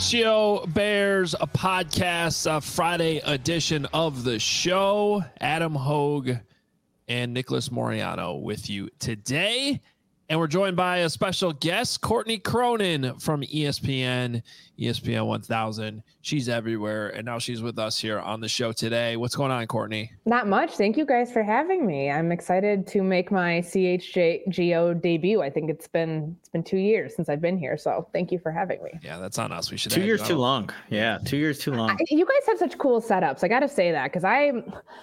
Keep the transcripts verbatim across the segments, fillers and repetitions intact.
H G O Bears, a podcast, a Friday edition of the show. Adam Hogue and Nicholas Moriano with you today. And we're joined by a special guest, Courtney Cronin from E S P N, E S P N one thousand. She's everywhere, and now she's with us here on the show today. What's going on, Courtney? Not much. Thank you guys for having me. I'm excited to make my C H G O debut. I think it's been it's been two years since I've been here, so thank you for having me. Yeah, that's on us. We should two years too long. Yeah, two years too long. I, you guys have such cool setups. I got to say that because I.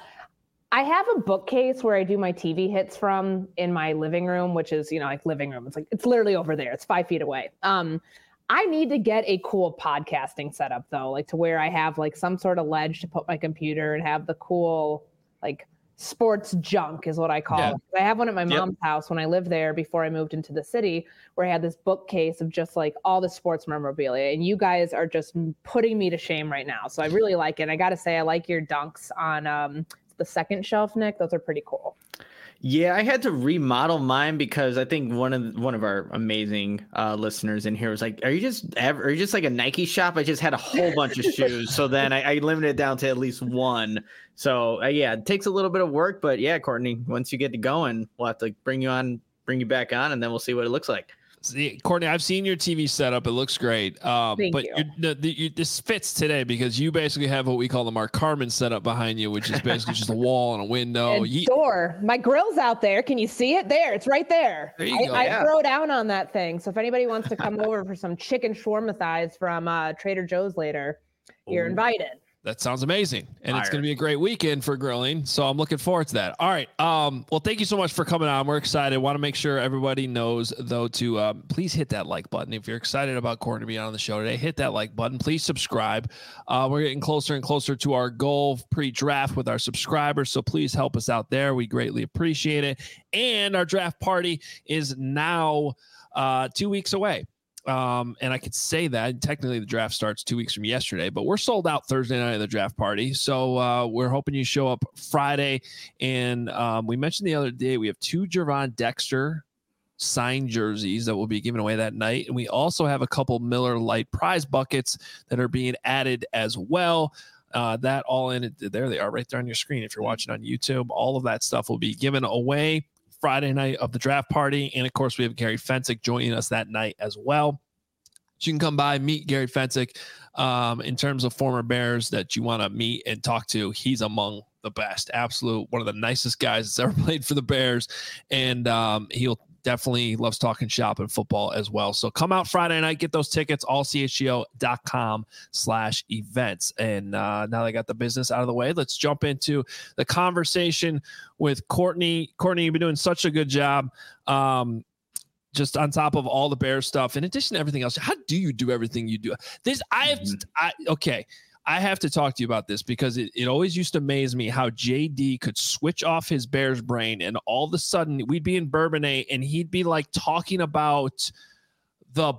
I have a bookcase where I do my T V hits from in my living room, which is, you know, like living room. It's like, it's literally over there. It's five feet away. Um, I need to get a cool podcasting setup though, like to where I have like some sort of ledge to put my computer and have the cool, like sports junk is what I call yeah. it. I have one at my yep. mom's house when I lived there before I moved into the city, where I had this bookcase of just like all the sports memorabilia, and you guys are just putting me to shame right now. So I really like it. I got to say, I like your dunks on, um, the second shelf, Nick. Those are pretty cool. Yeah, I had to remodel mine because I think one of one of our amazing uh, listeners in here was like, "Are you just ever, are you just like a Nike shop?" I just had a whole bunch of shoes, so then I, I limited it down to at least one. So uh, yeah, it takes a little bit of work, but yeah, Courtney, once you get to going, we'll have to bring you on, bring you back on, and then we'll see what it looks like. See, Courtney, I've seen your T V setup. It looks great. Um, Thank but you. You're, the, the, you, this fits today because you basically have what we call the Mark Carman setup behind you, which is basically just a wall and a window. And Ye- door. My grill's out there. Can you see it? There. It's right there. There you I, go. I Yeah. throw down on that thing. So if anybody wants to come over for some chicken shawarma thighs from uh, Trader Joe's later, you're Ooh. invited. That sounds amazing. And Fire. It's going to be a great weekend for grilling. So I'm looking forward to that. All right. Um, well, thank you so much for coming on. We're excited. Want to make sure everybody knows, though, to um, please hit that like button. If you're excited about Courtney being on the show today, hit that like button. Please subscribe. Uh, we're getting closer and closer to our goal pre-draft with our subscribers. So please help us out there. We greatly appreciate it. And our draft party is now uh, two weeks away. Um, and I could say that technically the draft starts two weeks from yesterday, but we're sold out Thursday night of the draft party. So uh, we're hoping you show up Friday. And um, we mentioned the other day, we have two Gervon Dexter signed jerseys that will be given away that night. And we also have a couple Miller Lite prize buckets that are being added as well. Uh, that all in it. There they are right there on your screen. If you're watching on YouTube, all of that stuff will be given away Friday night of the draft party. And of course, we have Gary Fensick joining us that night as well. So you can come by, meet Gary Fensick. Um, in terms of former Bears that you want to meet and talk to, he's among the best. Absolute, one of the nicest guys that's ever played for the Bears. And um, he'll definitely loves talking shop and football as well. So come out Friday night, get those tickets, all C H G O dot com slash events. And uh, now that I got the business out of the way, let's jump into the conversation with Courtney. Courtney, you've been doing such a good job. Um, just on top of all the Bears stuff, in addition to everything else, how do you do everything you do? This, I have, mm-hmm. I, okay. I have to talk to you about this because it, it always used to amaze me how J D could switch off his Bears brain and all of a sudden we'd be in Bourbonnais and he'd be like talking about the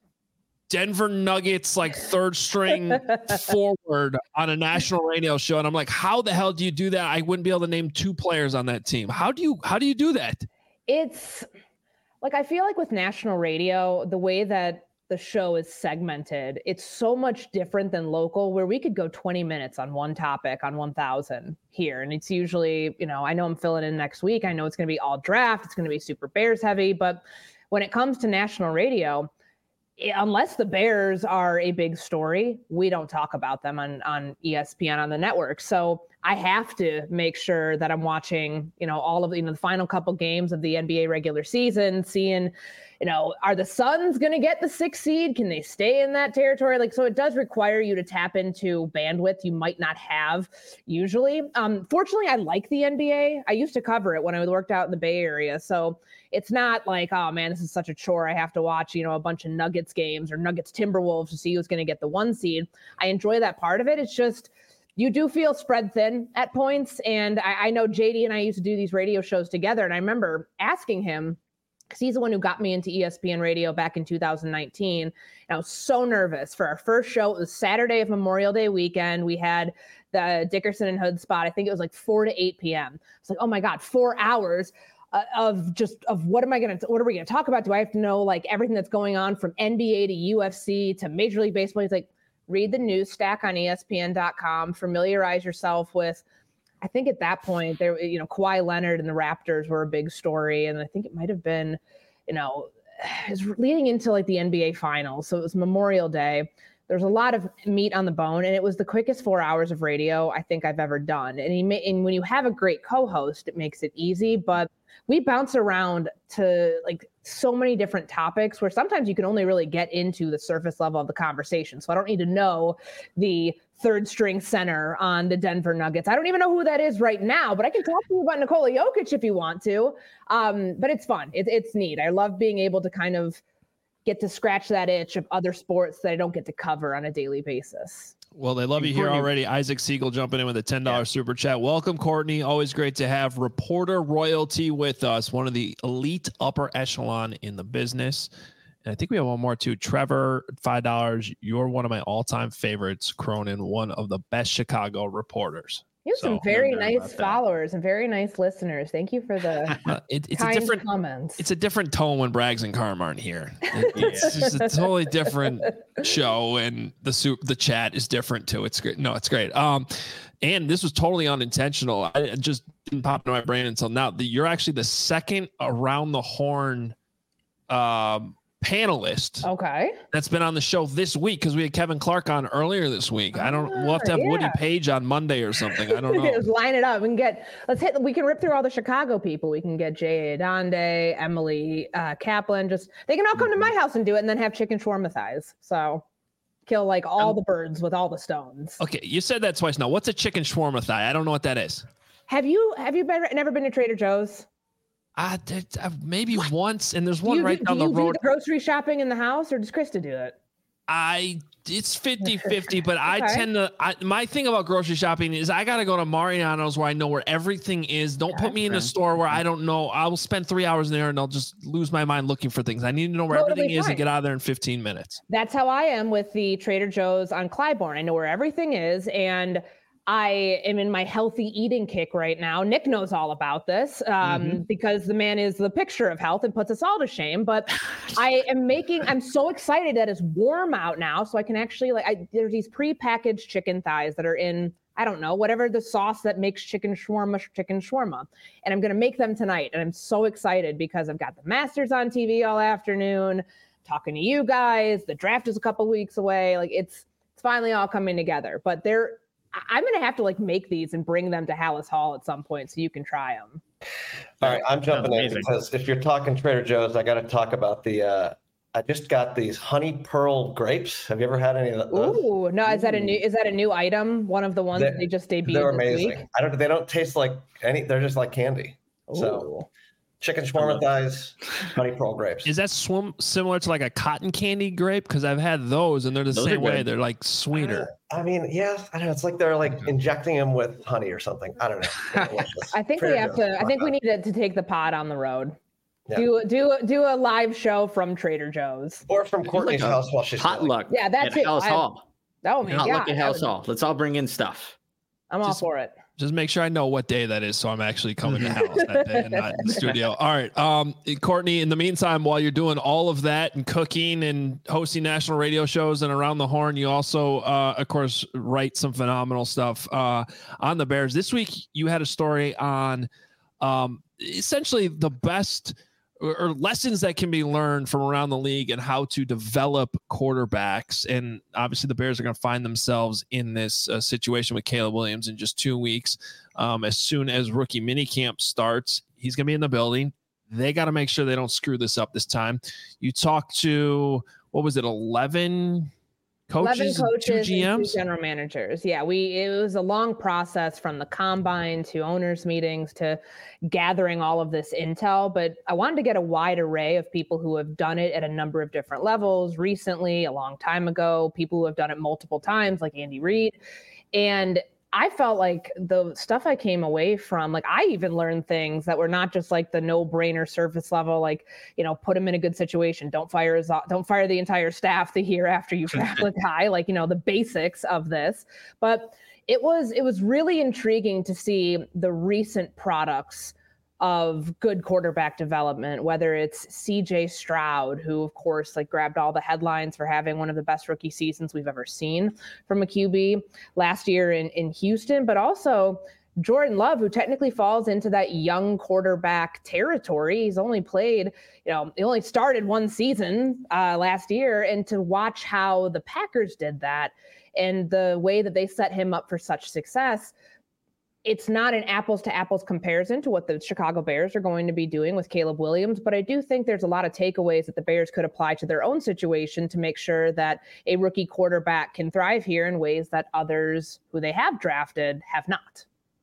Denver Nuggets, like third string forward on a national radio show. And I'm like, how the hell do you do that? I wouldn't be able to name two players on that team. How do you, how do you do that? It's like, I feel like with national radio, the way that the show is segmented, it's so much different than local, where we could go twenty minutes on one topic on one thousand here. And it's usually, you know, I know I'm filling in next week. I know it's going to be all draft. It's going to be super Bears heavy. But when it comes to national radio, unless the Bears are a big story, we don't talk about them on, on E S P N on the network. So I have to make sure that I'm watching, you know, all of the, you know, the final couple games of the N B A regular season, seeing, you know, are the Suns going to get the sixth seed? Can they stay in that territory? Like, so it does require you to tap into bandwidth you might not have usually. Um, fortunately, I like the N B A. I used to cover it when I worked out in the Bay Area. So it's not like, oh man, this is such a chore. I have to watch, you know, a bunch of Nuggets games or Nuggets Timberwolves to see who's going to get the one seed. I enjoy that part of it. It's just, you do feel spread thin at points. And I, I know J D and I used to do these radio shows together. And I remember asking him, because he's the one who got me into E S P N radio back in two thousand nineteen. And I was so nervous for our first show. It was Saturday of Memorial Day weekend. We had the Dickerson and Hood spot. I think it was like four to eight p.m. It's like, oh my God, four hours. uh, of just of what am I going to, what are we going to talk about? Do I have to know like everything that's going on from N B A to U F C to Major League Baseball? He's like, read the news stack on E S P N dot com, familiarize yourself with, I think at that point there, you know, Kawhi Leonard and the Raptors were a big story. And I think it might've been, you know, it was leading into like the N B A finals. So it was Memorial Day. There's a lot of meat on the bone, and it was the quickest four hours of radio I think I've ever done. And, he ma- and when you have a great co-host, it makes it easy, but we bounce around to like so many different topics where sometimes you can only really get into the surface level of the conversation. So I don't need to know the third string center on the Denver Nuggets. I don't even know who that is right now, but I can talk to you about Nikola Jokic if you want to. Um, but it's fun. It, it's neat. I love being able to kind of get to scratch that itch of other sports that I don't get to cover on a daily basis. Well, they love you here already. Isaac Siegel jumping in with a ten dollars yeah. super chat. Welcome, Courtney. Always great to have reporter royalty with us, one of the elite upper echelon in the business. And I think we have one more too. Trevor, five dollars. You're one of my all-time favorites, Cronin, one of the best Chicago reporters. You have so, some very nice followers and very nice listeners. Thank you for the uh, it, it's kind a different comments. It's a different tone when Braggs and Carm aren't here. It, it's just a totally different show, and the soup, the chat is different too. It's great. No, it's great. Um, and this was totally unintentional. I it just didn't pop into my brain until now. The, you're actually the second Around the Horn um, panelist okay that's been on the show this week, because we had Kevin Clark on earlier this week. I don't we'll have to have yeah. Woody Page on Monday or something. I don't know. Just line it up. We can get let's hit we can rip through all the Chicago people. We can get Jay Adonde, Emily uh Kaplan. Just they can all come to my house and do it, and then have chicken shawarma thighs. So kill like all um, the birds with all the stones. Okay, you said that twice now. What's a chicken shawarma thigh? I don't know what that is. Have you have you been never been to Trader Joe's? I did uh, maybe what? once, and there's one you, right do, down do the road. Do the grocery shopping in the house, or does Krista do it? I it's fifty-fifty, but okay. I tend to. I, my thing about grocery shopping is I got to go to Mariano's where I know where everything is. Don't okay. put me in a store where I don't know. I will spend three hours in there and I'll just lose my mind looking for things. I need to know where totally everything fine. is and get out of there in fifteen minutes. That's how I am with the Trader Joe's on Clybourne. I know where everything is, and I am in my healthy eating kick right now. Nick knows all about this um, mm-hmm. because the man is the picture of health and puts us all to shame. But I am making, I'm so excited that it's warm out now. So I can actually like, I, there's these pre-packaged chicken thighs that are in, I don't know, whatever the sauce that makes chicken shawarma, chicken shawarma. And I'm going to make them tonight. And I'm so excited because I've got the Masters on T V all afternoon, talking to you guys. The draft is a couple weeks away. Like it's, it's finally all coming together, but they're, I'm going to have to like make these and bring them to Hallis Hall at some point so you can try them. All right. I'm jumping in because if you're talking Trader Joe's, I got to talk about the, uh, I just got these honey pearl grapes. Have you ever had any of those? Ooh, no. Is that a new, is that a new item? One of the ones they, that they just debuted They're this amazing. week? I don't, they don't taste like any, they're just like candy. Ooh. So chicken shawarma thighs, honey pearl grapes. Is that swim similar to like a cotton candy grape? Because I've had those and they're the those same way. They're like sweeter. Uh, I mean, yeah, I don't know. It's like they're like injecting them with honey or something. I don't know. I think we have to. I think we need to, to take the pod on the road. Yeah. Do do do a live show from Trader Joe's or from Courtney's like house while she's potluck. Yeah, that's at it. Hallis Hall. Oh my god, potluck at Hallis Hall. Let's all bring in stuff. I'm Just, all for it. Just make sure I know what day that is, so I'm actually coming to Hallis that day and not in the studio. All right, um, Courtney. In the meantime, while you're doing all of that and cooking and hosting national radio shows and Around the Horn, you also, uh, of course, write some phenomenal stuff uh, on the Bears. This week, you had a story on um, essentially the best or lessons that can be learned from around the league and how to develop quarterbacks. And obviously the Bears are going to find themselves in this uh, situation with Caleb Williams in just two weeks. Um, as soon as rookie minicamp starts, he's going to be in the building. They got to make sure they don't screw this up this time. You talked to, what was it? eleven coaches, eleven coaches, two G Ms, and two general managers. Yeah, we it was a long process from the combine to owners meetings to gathering all of this intel. But I wanted to get a wide array of people who have done it at a number of different levels recently, a long time ago, people who have done it multiple times, like Andy Reid. And I felt like the stuff I came away from, like I even learned things that were not just like the no-brainer surface level, like, you know, put him in a good situation. Don't fire his, don't fire the entire staff the year after you draft a guy, like, you know, the basics of this. But it was, it was really intriguing to see the recent products of good quarterback development, whether it's C J Stroud, who of course like grabbed all the headlines for having one of the best rookie seasons we've ever seen from a Q B last year in, in Houston, but also Jordan Love, who technically falls into that young quarterback territory. He's only played, you know, he only started one season uh, last year. And to watch how the Packers did that and the way that they set him up for such success, it's not an apples to apples comparison to what the Chicago Bears are going to be doing with Caleb Williams. But I do think there's a lot of takeaways that the Bears could apply to their own situation to make sure that a rookie quarterback can thrive here in ways that others who they have drafted have not.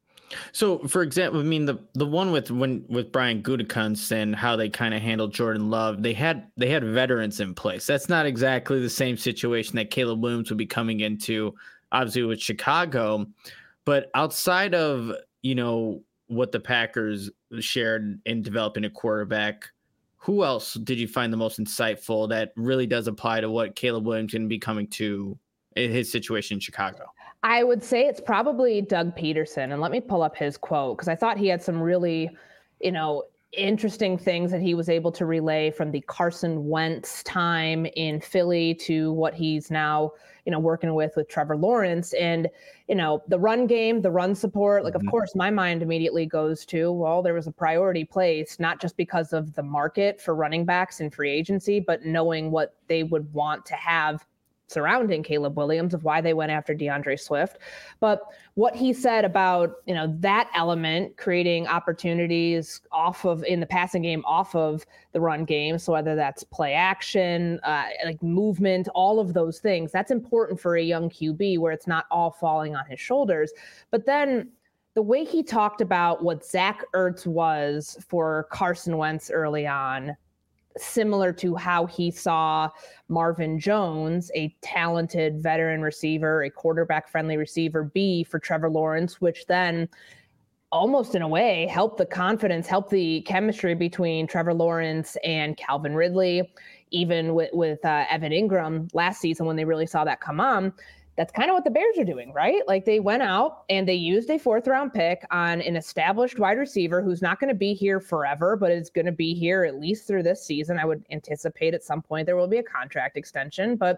So, for example, I mean the the one with when with Brian Gutekunst and how they kind of handled Jordan Love, they had they had veterans in place. That's not exactly the same situation that Caleb Williams would be coming into, obviously with Chicago. But outside of, you know, what the Packers shared in developing a quarterback, who else did you find the most insightful that really does apply to what Caleb Williams can be coming to in his situation in Chicago? I would say it's probably Doug Peterson. And let me pull up his quote, because I thought he had some really, you know, interesting things that he was able to relay from the Carson Wentz time in Philly to what he's now, you know, working with with Trevor Lawrence. And, you know, the run game, the run support, like, mm-hmm. of course, my mind immediately goes to, well, there was a priority placed, not just because of the market for running backs in free agency, but knowing what they would want to have surrounding Caleb Williams, of why they went after DeAndre Swift. But what he said about, you know, that element, creating opportunities off of in the passing game, off of the run game. So whether that's play action, uh, like movement, all of those things, that's important for a young Q B where it's not all falling on his shoulders. But then the way he talked about what Zach Ertz was for Carson Wentz early on, similar to how he saw Marvin Jones, a talented veteran receiver, a quarterback-friendly receiver, be for Trevor Lawrence, which then almost in a way helped the confidence, helped the chemistry between Trevor Lawrence and Calvin Ridley, even with, with uh, Evan Ingram last season when they really saw that come on. That's kind of what the Bears are doing, right? Like they went out and they used a fourth round pick on an established wide receiver who's not going to be here forever, but is going to be here at least through this season. I would anticipate at some point there will be a contract extension, but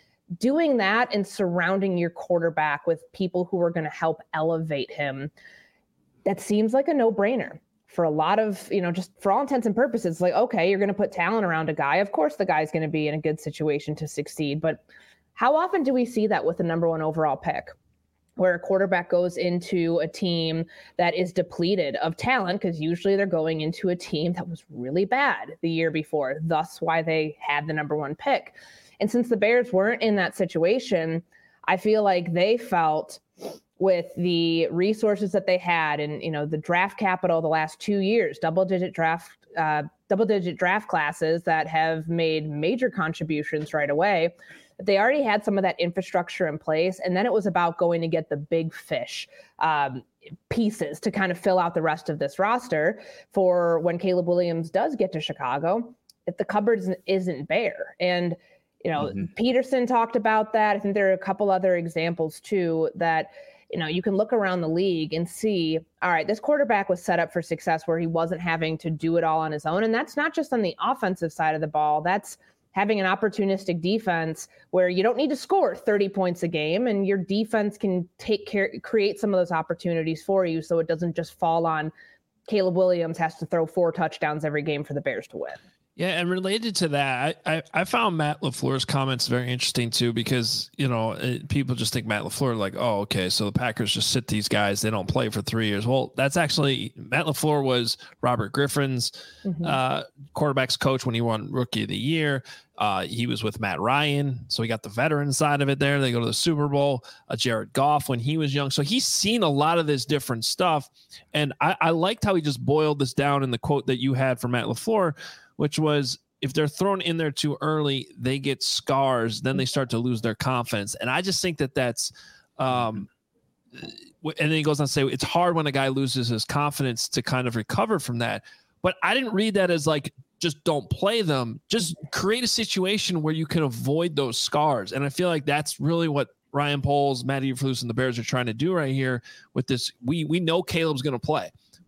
doing that and surrounding your quarterback with people who are going to help elevate him, that seems like a no-brainer. For a lot of, you know, just for all intents and purposes, like, okay, you're going to put talent around a guy. Of course, the guy's going to be in a good situation to succeed, but how often do we see that with the number one overall pick, where a quarterback goes into a team that is depleted of talent, because usually they're going into a team that was really bad the year before, thus why they had the number one pick. And since the Bears weren't in that situation, I feel like they felt with the resources that they had and, you know, the draft capital the last two years, double digit draft, uh, double digit draft classes that have made major contributions right away, they already had some of that infrastructure in place. And then it was about going to get the big fish um, pieces to kind of fill out the rest of this roster for when Caleb Williams does get to Chicago, if the cupboard isn't, isn't bare. And, you know, mm-hmm. Peterson talked about that. I think there are a couple other examples too, that, you know, you can look around the league and see, all right, this quarterback was set up for success where he wasn't having to do it all on his own. And that's not just on the offensive side of the ball. That's having an opportunistic defense where you don't need to score thirty points a game and your defense can take care, create some of those opportunities for you. So it doesn't just fall on Caleb Williams has to throw four touchdowns every game for the Bears to win. Yeah, and related to that, I, I, I found Matt LaFleur's comments very interesting too, because, you know, it, people just think Matt LaFleur like, oh, okay, so the Packers just sit these guys, they don't play for three years. Well, that's actually, Matt LaFleur was Robert Griffin's mm-hmm. uh, quarterback's coach when he won Rookie of the Year. Uh, he was with Matt Ryan, so he got the veteran side of it there. They go to the Super Bowl. Uh, Jared Goff when he was young. So he's seen a lot of this different stuff. And I, I liked how he just boiled this down in the quote that you had from Matt LaFleur, which was, if they're thrown in there too early, they get scars, then they start to lose their confidence. And I just think that that's um, – and then he goes on to say it's hard when a guy loses his confidence to kind of recover from that. But I didn't read that as like just don't play them. Just create a situation where you can avoid those scars. And I feel like that's really what Ryan Poles, Matt Eberflus, and the Bears are trying to do right here with this. We we know Caleb's going to play.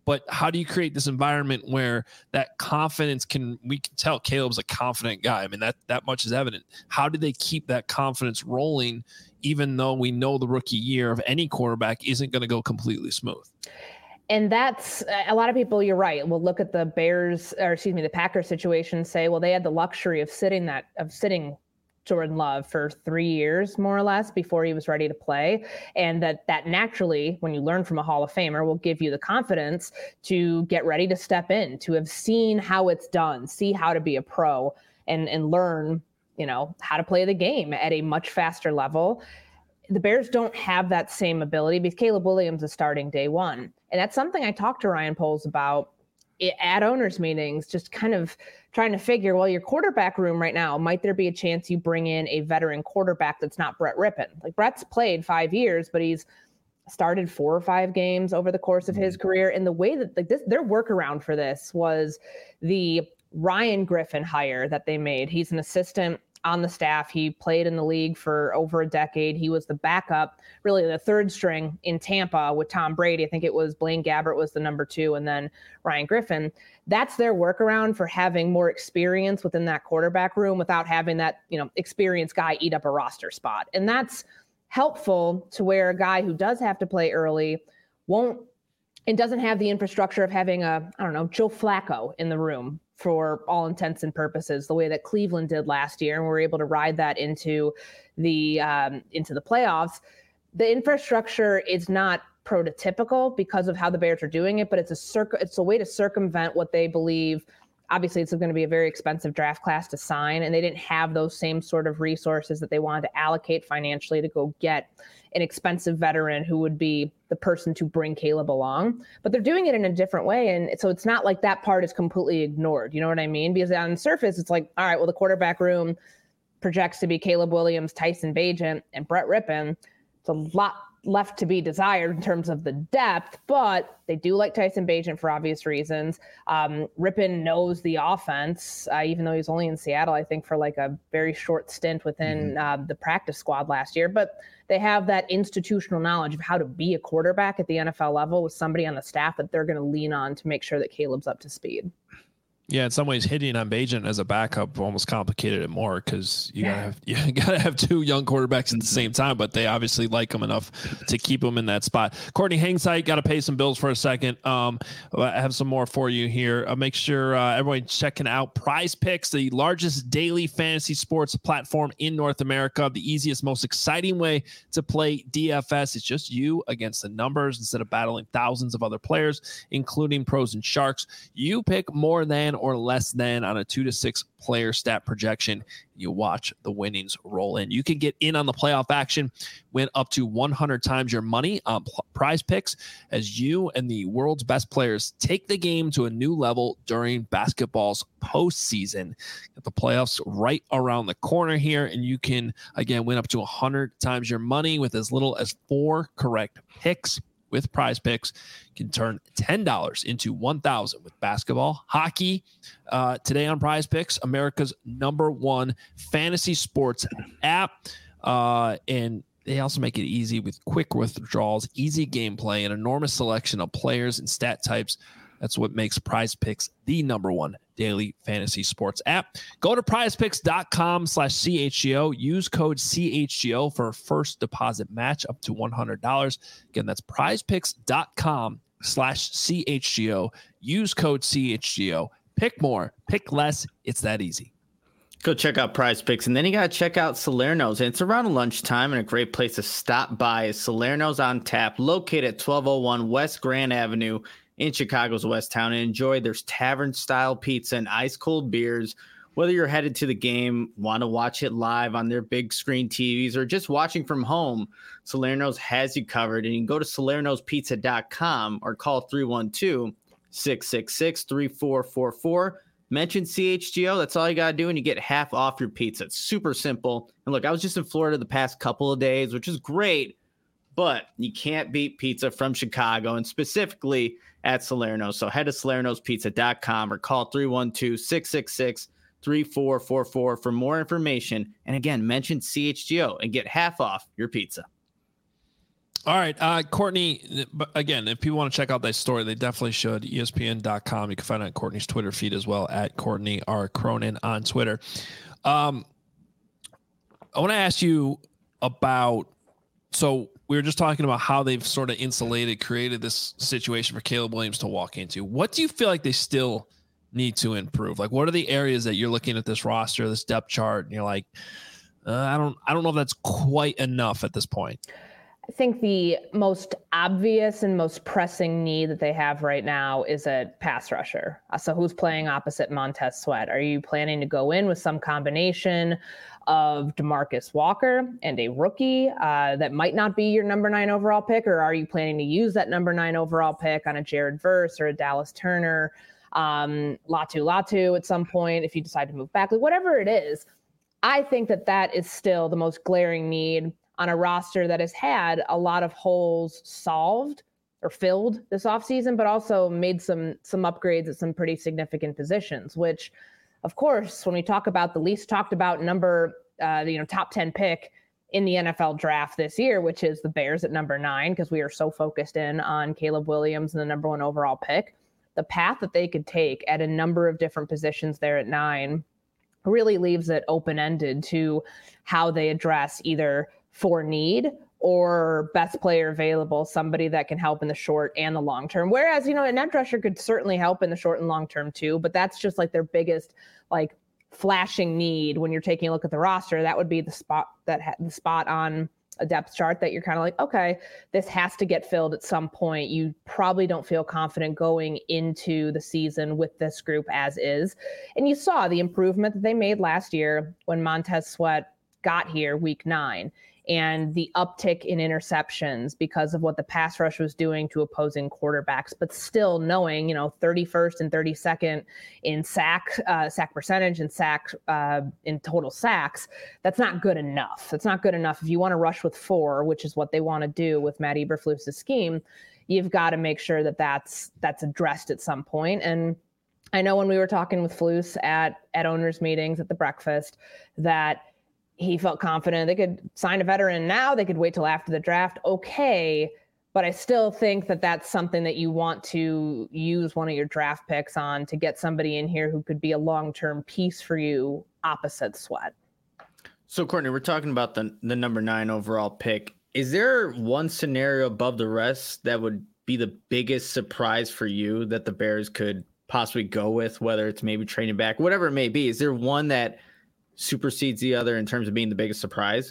but how do you create this environment where that confidence can, we can tell Caleb's a confident guy. I mean, that, that much is evident. How do they keep that confidence rolling, even though we know the rookie year of any quarterback isn't going to go completely smooth? And that's a lot of people, you're right, will look at the Bears, or excuse me, the Packers situation and say, well, they had the luxury of sitting that, of sitting Jordan Love for three years, more or less, before he was ready to play. And that that naturally, when you learn from a Hall of Famer, will give you the confidence to get ready to step in, to have seen how it's done, see how to be a pro, and, and learn, you know, how to play the game at a much faster level. The Bears don't have that same ability because Caleb Williams is starting day one. And that's something I talked to Ryan Poles about at owners meetings, just kind of trying to figure, well, your quarterback room right now, might there be a chance you bring in a veteran quarterback that's not Brett Rippon? Like, Brett's played five years, but he's started four or five games over the course of his career. And the way that, like, this, their workaround for this was the Ryan Griffin hire that they made. He's an assistant on the staff. He played in the league for over a decade. He was the backup, really the third string in Tampa with Tom Brady. I think it was Blaine Gabbert was the number two, and then Ryan Griffin. That's their workaround for having more experience within that quarterback room without having that, you know, experienced guy eat up a roster spot. And that's helpful to where a guy who does have to play early won't, and doesn't have the infrastructure of having a, I don't know, Joe Flacco in the room for all intents and purposes, the way that Cleveland did last year, and we were able to ride that into the um, into the playoffs. The infrastructure is not prototypical because of how the Bears are doing it, but it's a circ- it's a way to circumvent what they believe. Obviously, it's going to be a very expensive draft class to sign, and they didn't have those same sort of resources that they wanted to allocate financially to go get an expensive veteran who would be the person to bring Caleb along. But they're doing it in a different way, and so it's not like that part is completely ignored. You know what I mean? Because on the surface, it's like, all right, well, the quarterback room projects to be Caleb Williams, Tyson Bagent, and Brett Rippon. It's a lot left to be desired in terms of the depth, but they do like Tyson Bagent for obvious reasons. Um, Rippon knows the offense, uh, even though he was only in Seattle, I think, for like a very short stint within mm-hmm. uh, the practice squad last year. But they have that institutional knowledge of how to be a quarterback at the N F L level with somebody on the staff that they're going to lean on to make sure that Caleb's up to speed. Yeah, in some ways, hitting on Bagent as a backup almost complicated it more because you gotta have you gotta have two young quarterbacks at the same time, but they obviously like him enough to keep him in that spot. Courtney, hang tight. Got to pay some bills for a second. Um, I have some more for you here. Uh, make sure uh, everyone checking out Prize Picks, the largest daily fantasy sports platform in North America. The easiest, most exciting way to play D F S. It's just you against the numbers instead of battling thousands of other players, including pros and sharks. You pick more than or less than on a two to six player stat projection. You watch the winnings roll in. You can get in on the playoff action, win up to one hundred times your money on Prize Picks as you and the world's best players take the game to a new level during basketball's postseason. Get the playoffs right around the corner here, and you can, again, win up to one hundred times your money with as little as four correct picks. With Prize Picks, you can turn ten dollars into one thousand with basketball, hockey. Uh, today on Prize Picks, America's number one fantasy sports app. Uh, and they also make it easy with quick withdrawals, easy gameplay, an enormous selection of players and stat types. That's what makes Prize Picks the number one daily fantasy sports app. Go to prizepicks.com slash CHGO. Use code C H G O for a first deposit match up to one hundred dollars. Again, that's prizepicks.com slash CHGO. Use code C H G O. Pick more, pick less. It's that easy. Go check out Prize Picks, and then you got to check out Salerno's. And it's around lunchtime, and a great place to stop by is Salerno's on Tap, located at twelve oh one West Grand Avenue in Chicago's West Town, and enjoy their tavern-style pizza and ice-cold beers. Whether you're headed to the game, want to watch it live on their big screen T Vs, or just watching from home, Salerno's has you covered. And you can go to salernos pizza dot com or call three one two, six six six, three four four four. Mention C H G O. That's all you got to do, and you get half off your pizza. It's super simple. And look, I was just in Florida the past couple of days, which is great, but you can't beat pizza from Chicago, and specifically at Salerno. So head to salernos pizza dot com or call three one two, six six six, three four four four for more information. And again, mention C H G O and get half off your pizza. All right, uh, Courtney, again, if people want to check out that story, they definitely should. E S P N dot com. You can find it on Courtney's Twitter feed as well, at Courtney R. Cronin on Twitter. Um, I want to ask you about, so we were just talking about how they've sort of insulated, created this situation for Caleb Williams to walk into. What do you feel like they still need to improve? Like, what are the areas that you're looking at this roster, this depth chart, and you're like, uh, I don't, I don't know if that's quite enough at this point. I think the most obvious and most pressing need that they have right now is a pass rusher. Uh, so who's playing opposite Montez Sweat? Are you planning to go in with some combination of DeMarcus Walker and a rookie uh, that might not be your number nine overall pick? Or are you planning to use that number nine overall pick on a Jared Verse or a Dallas Turner, um, Latu Latu at some point if you decide to move back? Like, whatever it is, I think that that is still the most glaring need on a roster that has had a lot of holes solved or filled this offseason, but also made some some upgrades at some pretty significant positions, which, of course, when we talk about the least talked about number, uh, you know, top ten pick in the N F L draft this year, which is the Bears at number nine, because we are so focused in on Caleb Williams and the number one overall pick, the path that they could take at a number of different positions there at nine really leaves it open-ended to how they address either for need or best player available, somebody that can help in the short and the long term. Whereas, you know, an edge rusher could certainly help in the short and long term too, but that's just like their biggest, like, flashing need when you're taking a look at the roster. That would be the spot that ha- the spot on a depth chart that you're kind of like, okay, this has to get filled at some point. You probably don't feel confident going into the season with this group as is. And you saw the improvement that they made last year when Montez Sweat got here week nine, and the uptick in interceptions because of what the pass rush was doing to opposing quarterbacks, but still knowing, you know, thirty-first and thirty-second in sack, uh, sack percentage and sack uh, in total sacks. That's not good enough. That's not good enough. If you want to rush with four, which is what they want to do with Matt Eberflus's scheme, you've got to make sure that that's, that's addressed at some point. And I know when we were talking with Flus at, at owners meetings at the breakfast, that he felt confident they could sign a veteran now. They could wait till after the draft. Okay. But I still think that that's something that you want to use one of your draft picks on to get somebody in here who could be a long-term piece for you opposite Sweat. So Courtney, we're talking about the, the number nine overall pick. Is there one scenario above the rest that would be the biggest surprise for you that the Bears could possibly go with, whether it's maybe trading back, whatever it may be? Is there one that supersedes the other in terms of being the biggest surprise?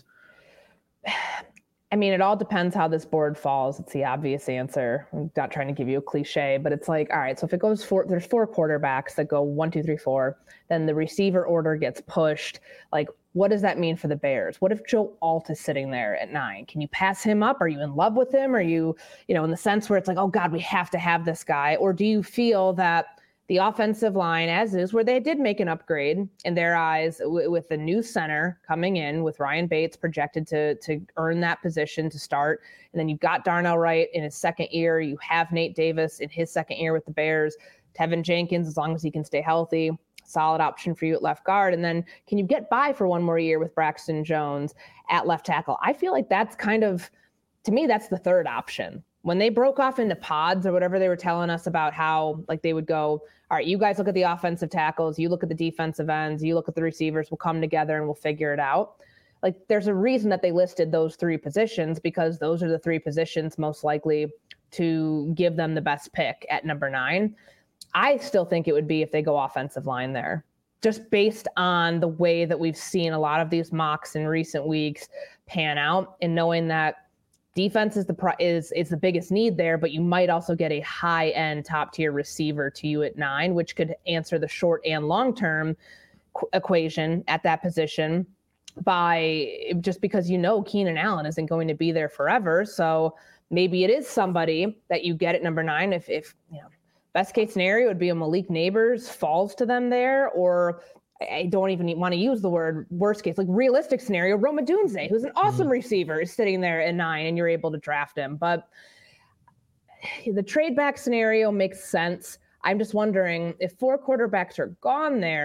I mean, it all depends how this board falls. It's the obvious answer. I'm not trying to give you a cliche, but it's like, all right, so if it goes four, there's four quarterbacks that go one, two, three, four, then the receiver order gets pushed. Like, what does that mean for the Bears? What if Joe Alt is sitting there at nine? Can you pass him up? Are you in love with him? Are you, you know, in the sense where it's like, oh God, we have to have this guy? Or do you feel that the offensive line, as is, where they did make an upgrade in their eyes w- with the new center coming in with Ryan Bates projected to to earn that position to start. And then you've got Darnell Wright in his second year. You have Nate Davis in his second year with the Bears. Tevin Jenkins, as long as he can stay healthy, solid option for you at left guard. And then can you get by for one more year with Braxton Jones at left tackle? I feel like that's kind of, to me, that's the third option. When they broke off into pods or whatever they were telling us about how, like, they would go, all right, you guys look at the offensive tackles, you look at the defensive ends, you look at the receivers, we'll come together and we'll figure it out. Like, there's a reason that they listed those three positions, because those are the three positions most likely to give them the best pick at number nine. I still think it would be if they go offensive line there, just based on the way that we've seen a lot of these mocks in recent weeks pan out, and knowing that defense is the pro- is is the biggest need there, but you might also get a high-end top-tier receiver to you at nine, which could answer the short and long-term qu- equation at that position by just because you know Keenan Allen isn't going to be there forever. So maybe it is somebody that you get at number nine. If if you know, best case scenario would be a Malik Neighbors falls to them there, or I don't even want to use the word worst case, like realistic scenario, Rome Odunze, who's an awesome mm-hmm. receiver, is sitting there at nine and you're able to draft him. But the trade back scenario makes sense. I'm just wondering, if four quarterbacks are gone there,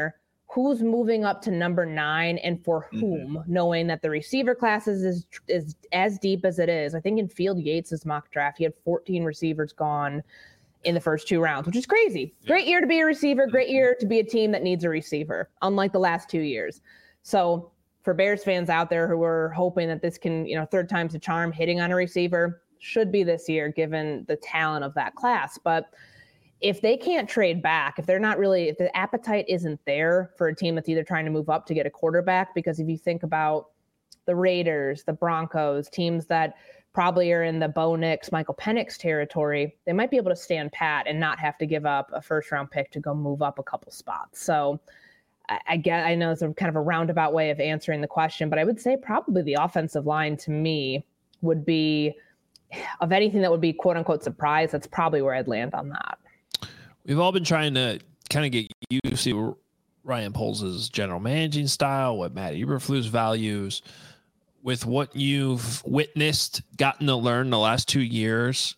who's moving up to number nine and for whom, mm-hmm. knowing that the receiver classes is is as deep as it is. I think in Field Yates' mock draft, he had fourteen receivers gone in the first two rounds, which is crazy. Great year to be a receiver, great year to be a team that needs a receiver, unlike the last two years. So for Bears fans out there who are hoping that this can, you know, third time's a charm, hitting on a receiver, should be this year given the talent of that class. But if they can't trade back, if they're not really, if the appetite isn't there for a team that's either trying to move up to get a quarterback, because if you think about the Raiders, the Broncos, teams that probably are in the Bo Nix, Michael Penix territory, they might be able to stand pat and not have to give up a first round pick to go move up a couple spots. So I, I get, I know it's a kind of a roundabout way of answering the question, but I would say probably the offensive line to me would be, of anything that would be quote unquote surprise, that's probably where I'd land on that. We've all been trying to kind of get used to Ryan Poles' general managing style, what Matt Eberflus values. With what you've witnessed, gotten to learn the last two years,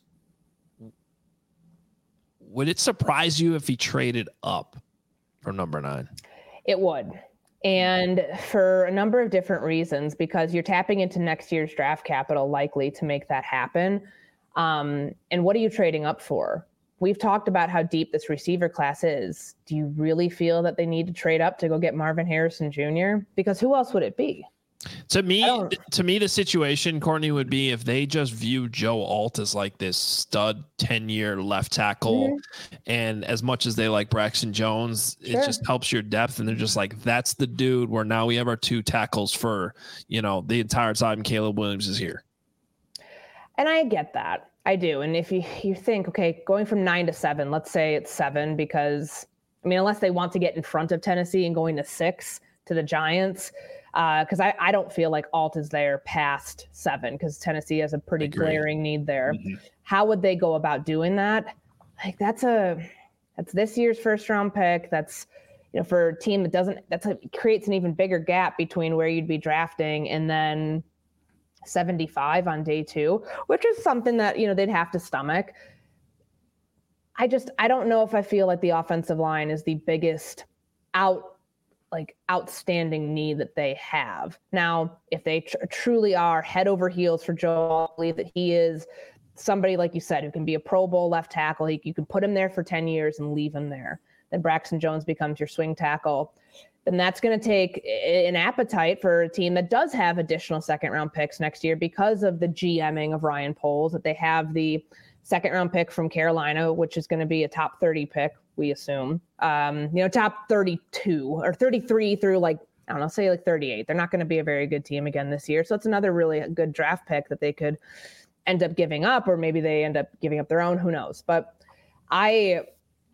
would it surprise you if he traded up for number nine? It would. And for a number of different reasons, because you're tapping into next year's draft capital likely to make that happen. Um, and what are you trading up for? We've talked about how deep this receiver class is. Do you really feel that they need to trade up to go get Marvin Harrison Junior? Because who else would it be? To me, to me, the situation, Courtney, would be if they just view Joe Alt as like this stud ten-year left tackle, mm-hmm. and as much as they like Braxton Jones, sure. it just helps your depth, and they're just like, that's the dude where now we have our two tackles for, you know, the entire time Caleb Williams is here. And I get that. I do. And if you, you think, okay, going from nine to seven, let's say it's seven, because, I mean, unless they want to get in front of Tennessee and going to six to the Giants, because uh, I, I don't feel like Alt is there past seven, because Tennessee has a pretty glaring need there. Mm-hmm. How would they go about doing that? Like that's a that's this year's first round pick. That's, you know, for a team that doesn't, that's a, creates an even bigger gap between where you'd be drafting and then seventy-five on day two, which is something that, you know, they'd have to stomach. I just, I don't know if I feel like the offensive line is the biggest out like outstanding need that they have. Now, if they tr- truly are head over heels for Joe, I believe that he is somebody, like you said, who can be a Pro Bowl left tackle. He, you can put him there for ten years and leave him there. Then Braxton Jones becomes your swing tackle. Then that's going to take an appetite for a team that does have additional second round picks next year because of the GMing of Ryan Poles, that they have the second round pick from Carolina, which is going to be a top thirty pick, we assume, um, you know, top thirty-two or thirty-three through like, I don't know, say like thirty-eight. They're not going to be a very good team again this year. So it's another really good draft pick that they could end up giving up, or maybe they end up giving up their own, who knows? But I,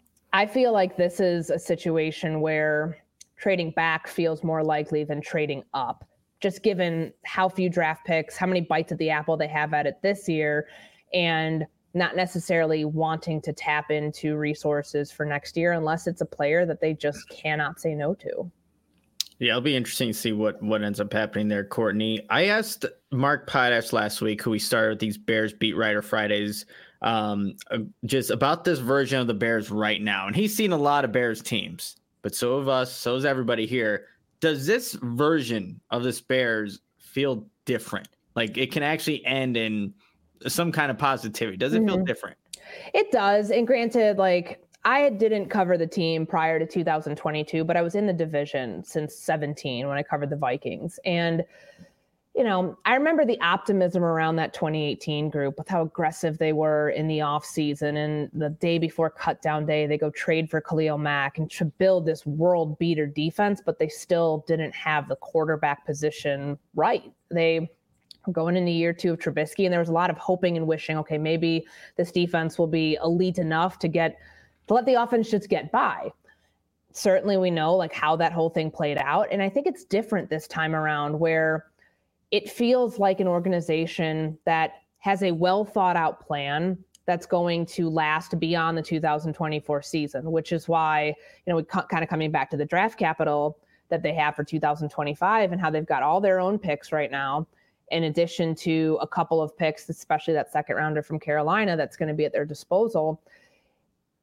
I feel like this is a situation where trading back feels more likely than trading up, just given how few draft picks, how many bites at the apple they have at it this year, and not necessarily wanting to tap into resources for next year unless it's a player that they just cannot say no to. Yeah, it'll be interesting to see what, what ends up happening there, Courtney. I asked Mark Potash last week, who we started with these Bears Beat Writer Fridays, um, just about this version of the Bears right now. And he's seen a lot of Bears teams, but so have us, so is everybody here. Does this version of this Bears feel different? Like it can actually end in some kind of positivity. Does it mm-hmm. feel different? It does. And granted, like I didn't cover the team prior to two thousand twenty-two, but I was in the division since seventeen when I covered the Vikings. And, you know, I remember the optimism around that twenty eighteen group with how aggressive they were in the offseason. And the day before cut down day, they go trade for Khalil Mack and to build this world beater defense, but they still didn't have the quarterback position right. They going into year two of Trubisky, and there was a lot of hoping and wishing, okay, maybe this defense will be elite enough to get, to let the offense just get by. Certainly we know like how that whole thing played out. And I think it's different this time around, where it feels like an organization that has a well thought out plan that's going to last beyond the two thousand twenty-four season, which is why, you know, we ca- kind of coming back to the draft capital that they have for two thousand twenty-five and how they've got all their own picks right now, in addition to a couple of picks, especially that second rounder from Carolina, that's going to be at their disposal.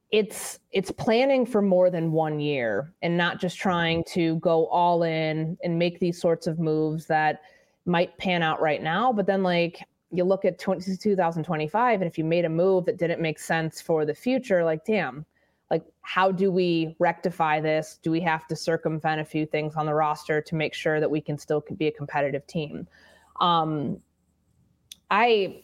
it's it's planning for more than one year and not just trying to go all in and make these sorts of moves that might pan out right now. But then like you look at twenty, two thousand twenty-five, and if you made a move that didn't make sense for the future, like, damn, like, how do we rectify this? Do we have to circumvent a few things on the roster to make sure that we can still be a competitive team? Um, I,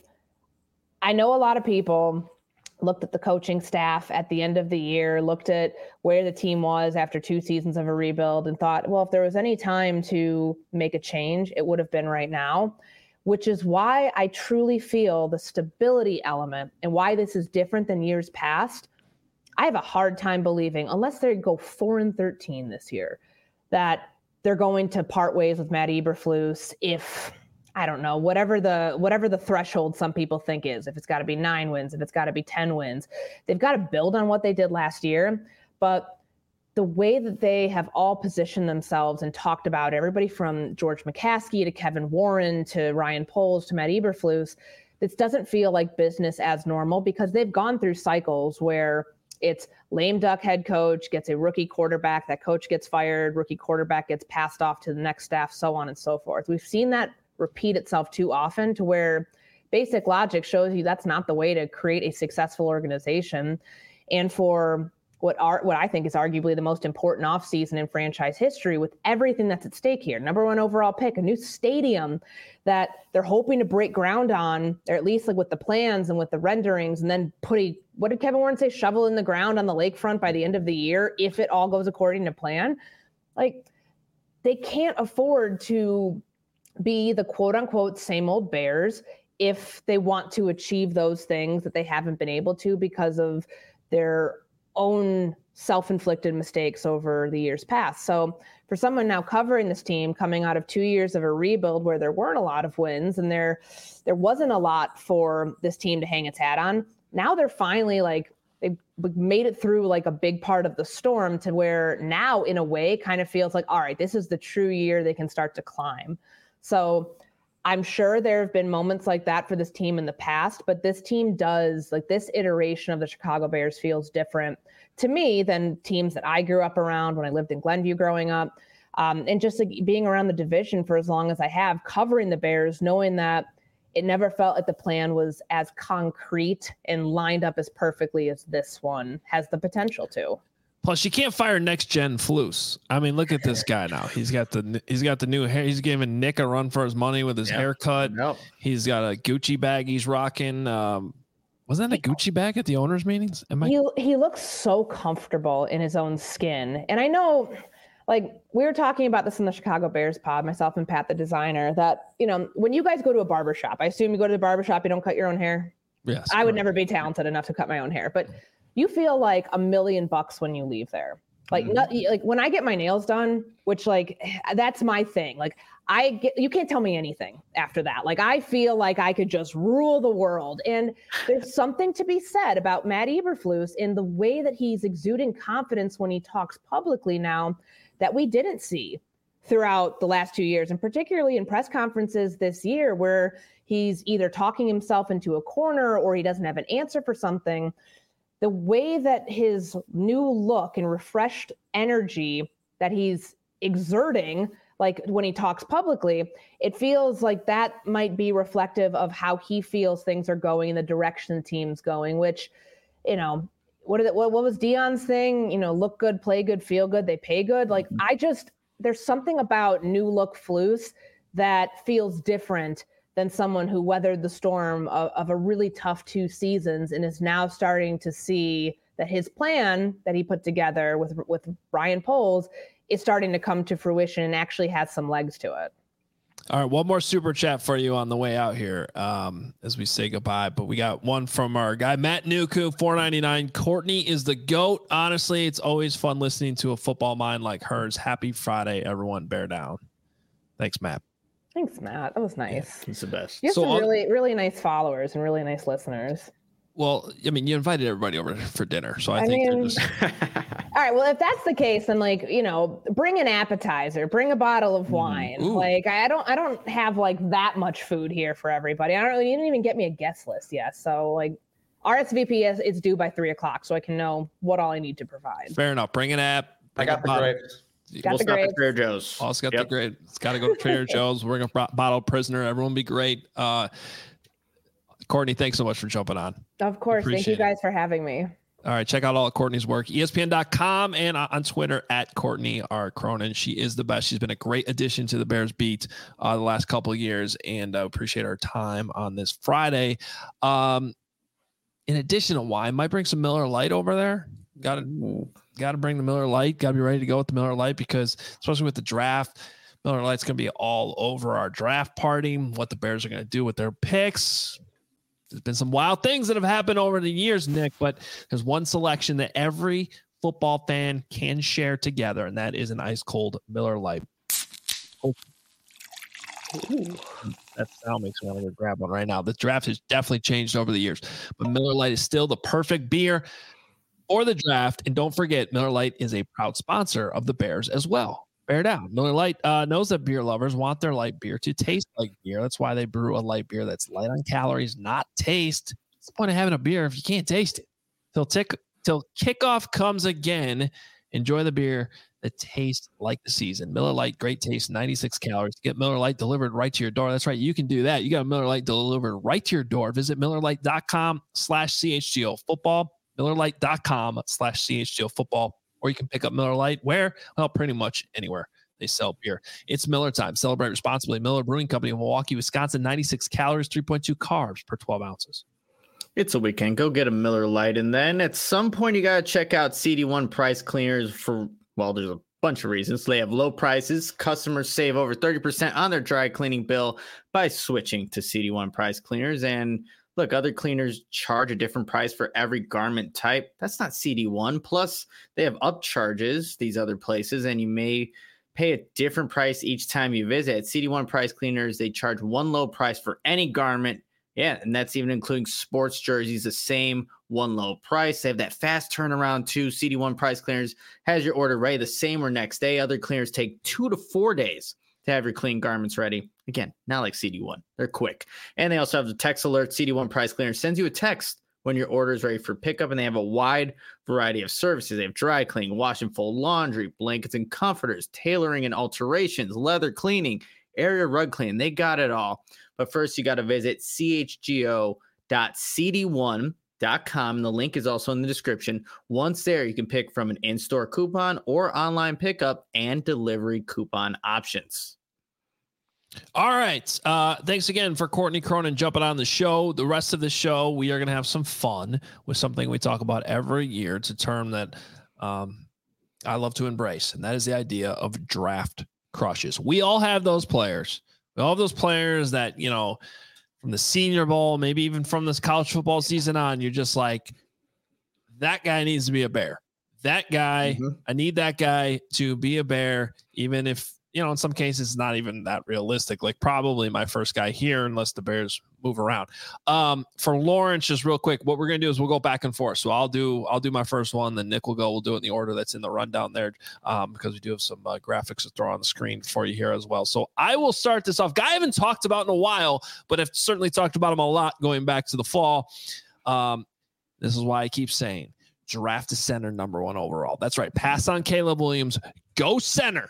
I know a lot of people looked at the coaching staff at the end of the year, looked at where the team was after two seasons of a rebuild and thought, well, if there was any time to make a change, it would have been right now, which is why I truly feel the stability element and why this is different than years past. I have a hard time believing, unless they go four and thirteen this year, that they're going to part ways with Matt Eberflus if, I don't know, whatever the whatever the threshold some people think is, if it's got to be nine wins, if it's got to be ten wins, they've got to build on what they did last year. But the way that they have all positioned themselves and talked about everybody from George McCaskey to Kevin Warren to Ryan Poles to Matt Eberflus, this doesn't feel like business as normal because they've gone through cycles where it's lame duck head coach gets a rookie quarterback, that coach gets fired, rookie quarterback gets passed off to the next staff, so on and so forth. We've seen that repeat itself too often to where basic logic shows you that's not the way to create a successful organization. And for what are what I think is arguably the most important offseason in franchise history, with everything that's at stake here, number one overall pick, a new stadium that they're hoping to break ground on, or at least like with the plans and with the renderings, and then put a, what did Kevin Warren say, shovel in the ground on the lakefront by the end of the year if it all goes according to plan. Like, they can't afford to be the quote unquote same old Bears if they want to achieve those things that they haven't been able to because of their own self-inflicted mistakes over the years past. So for someone now covering this team coming out of two years of a rebuild where there weren't a lot of wins and there there wasn't a lot for this team to hang its hat on, now they're finally like, they made it through like a big part of the storm to where now in a way kind of feels like, all right, this is the true year they can start to climb. So I'm sure there have been moments like that for this team in the past, but this team does, like, this iteration of the Chicago Bears feels different to me than teams that I grew up around when I lived in Glenview growing up. Um, and just like being around the division for as long as I have, covering the Bears, knowing that it never felt like the plan was as concrete and lined up as perfectly as this one has the potential to. Plus, you can't fire next gen Flus. I mean, look at this guy now. He's got the he's got the new hair. He's giving Nick a run for his money with his yep. haircut. Yep. He's got a Gucci bag he's rocking. Um, was that a Gucci bag at the owners' meetings? Am I- he he looks so comfortable in his own skin, and I know, like, we were talking about this in the Chicago Bears pod, myself and Pat, the designer, that, you know, when you guys go to a barbershop, I assume you go to the barbershop, you don't cut your own hair. Yes, I would never be talented enough to cut my own hair, but you feel like a million bucks when you leave there. Like, mm-hmm. not, like when I get my nails done, which like, that's my thing. Like I get, you can't tell me anything after that. Like, I feel like I could just rule the world. And there's something to be said about Matt Eberflus in the way that he's exuding confidence when he talks publicly now that we didn't see throughout the last two years. And particularly in press conferences this year, where he's either talking himself into a corner or he doesn't have an answer for something. The way that his new look and refreshed energy that he's exerting, like when he talks publicly, it feels like that might be reflective of how he feels things are going in the direction the team's going, which, you know, what, did it, what, what was Dion's thing? You know, look good, play good, feel good, they pay good. Like, mm-hmm. I just, there's something about new look Flus that feels different than someone who weathered the storm of, of a really tough two seasons and is now starting to see that his plan that he put together with with Ryan Poles is starting to come to fruition and actually has some legs to it. All right, one more super chat for you on the way out here um, as we say goodbye. But we got one from our guy, Matt Nuku, four ninety-nine. Courtney is the GOAT. Honestly, it's always fun listening to a football mind like hers. Happy Friday, everyone. Bear down. Thanks, Matt. Thanks, Matt. That was nice. Yeah, he's the best. You have so some I'll, really, really nice followers and really nice listeners. Well, I mean, you invited everybody over for dinner, so I, I think mean, they're just... All right, well, if that's the case, then, like, you know, bring an appetizer, bring a bottle of wine. Mm, like, I don't, I don't have like that much food here for everybody. I don't really, you didn't even get me a guest list yet, so like, R S V P is it's due by three o'clock, so I can know what all I need to provide. Fair enough. Bring an app. I got the grapes. Got we'll the stop grapes. at Trader Joe's. Also got Yep. the great. It's got to go to Trader Joe's. Bring a bo- bottle of Prisoner. Everyone be great. Uh, Courtney, thanks so much for jumping on. Of course. Thank you Appreciate guys for having me. All right, check out all of Courtney's work, E S P N dot com and on Twitter at Courtney R. Cronin. She is the best. She's been a great addition to the Bears beat uh, the last couple of years, and uh, appreciate her time on this Friday. Um, in addition to wine, might bring some Miller Lite over there. Got to got to bring the Miller Lite. Got to be ready to go with the Miller Lite because, especially with the draft, Miller Lite's going to be all over our draft party. What the Bears are going to do with their picks. There's been some wild things that have happened over the years, Nick, but there's one selection that every football fan can share together, and that is an ice cold Miller Lite. Oh. Ooh. That sound makes me want to go grab one right now. The draft has definitely changed over the years, but Miller Lite is still the perfect beer for the draft. And don't forget, Miller Lite is a proud sponsor of the Bears as well. Bear down. Miller Lite uh, knows that beer lovers want their light beer to taste like beer. That's why they brew a light beer that's light on calories, not taste. What's the point of having a beer if you can't taste it? Till tick till kickoff comes again. Enjoy the beer that tastes like the season. Miller Lite, great taste, ninety-six calories. Get Miller Lite delivered right to your door. That's right. You can do that. You got Miller Lite delivered right to your door. Visit MillerLite.com slash CHGO football. MillerLite.com slash CHGO football. Or you can pick up Miller Lite where? Well, pretty much anywhere they sell beer. It's Miller time. Celebrate responsibly. Miller Brewing Company of Milwaukee, Wisconsin, ninety-six calories, three point two carbs per twelve ounces. It's a weekend. Go get a Miller Lite. And then at some point, you got to check out C D one Price Cleaners for, well, there's a bunch of reasons. They have low prices. Customers save over thirty percent on their dry cleaning bill by switching to C D one Price Cleaners. And look, other cleaners charge a different price for every garment type. That's not C D one. Plus, they have upcharges, these other places, and you may pay a different price each time you visit. At C D one Price Cleaners, they charge one low price for any garment. Yeah, and that's even including sports jerseys, the same one low price. They have that fast turnaround too. C D one Price Cleaners has your order ready the same or next day. Other cleaners take two to four days to have your clean garments ready. Again, not like C D one. They're quick. And they also have the text alert. C D one Price Cleaners sends you a text when your order is ready for pickup, and they have a wide variety of services. They have dry cleaning, wash and fold laundry, blankets and comforters, tailoring and alterations, leather cleaning, area rug cleaning. They got it all. But first, you got to visit C H G O dot C D one dot com. And the link is also in the description. Once there, you can pick from an in-store coupon or online pickup and delivery coupon options. All right. Uh, thanks again for Courtney Cronin jumping on the show. The rest of the show, we are going to have some fun with something we talk about every year. It's a term that um, I love to embrace, and that is the idea of draft crushes. We all have those players. We all have those players that, you know, from the Senior Bowl, maybe even from this college football season on, you're just like, that guy needs to be a Bear. That guy, mm-hmm. I need that guy to be a Bear, even if, you know, in some cases, it's not even that realistic. Like probably my first guy here, unless the Bears move around. Um, for Lawrence, just real quick, what we're gonna do is we'll go back and forth. So I'll do I'll do my first one, then Nick will go. We'll do it in the order that's in the rundown there, um, because we do have some uh, graphics to throw on the screen for you here as well. So I will start this off. Guy I haven't talked about in a while, but I've certainly talked about him a lot going back to the fall. Um, this is why I keep saying draft a center number one overall. That's right. Pass on Caleb Williams. Go center.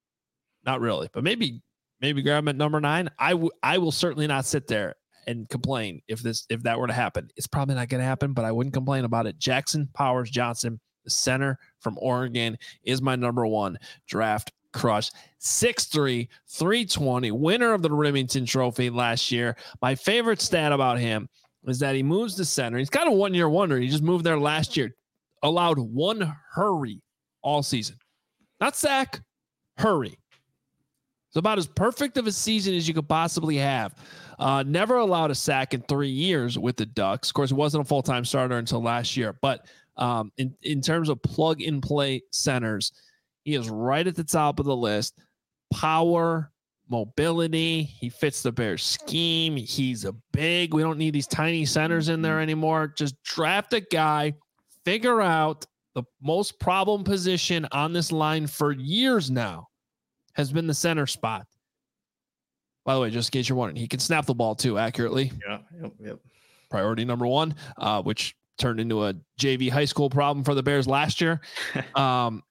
Not really, but maybe maybe grab him at number nine. I, w- I will certainly not sit there and complain if this if that were to happen. It's probably not going to happen, but I wouldn't complain about it. Jackson Powers Johnson, the center from Oregon, is my number one draft crush. six three, three twenty, winner of the Remington Trophy last year. My favorite stat about him is that he moves to center. He's got a one-year wonder. He just moved there last year. Allowed one hurry all season. Not sack, hurry. It's about as perfect of a season as you could possibly have. Uh, never allowed a sack in three years with the Ducks. Of course, he wasn't a full-time starter until last year. But um, in, in terms of plug-and-play centers, he is right at the top of the list. Power, mobility. He fits the Bears scheme. He's a big. We don't need these tiny centers in there anymore. Just draft a guy. Figure out the most problem position on this line for years now. Has been the center spot. By the way, just in case you're wondering, he can snap the ball too accurately. Yeah, yep, yep. priority number one, uh, which turned into a J V high school problem for the Bears last year. Um,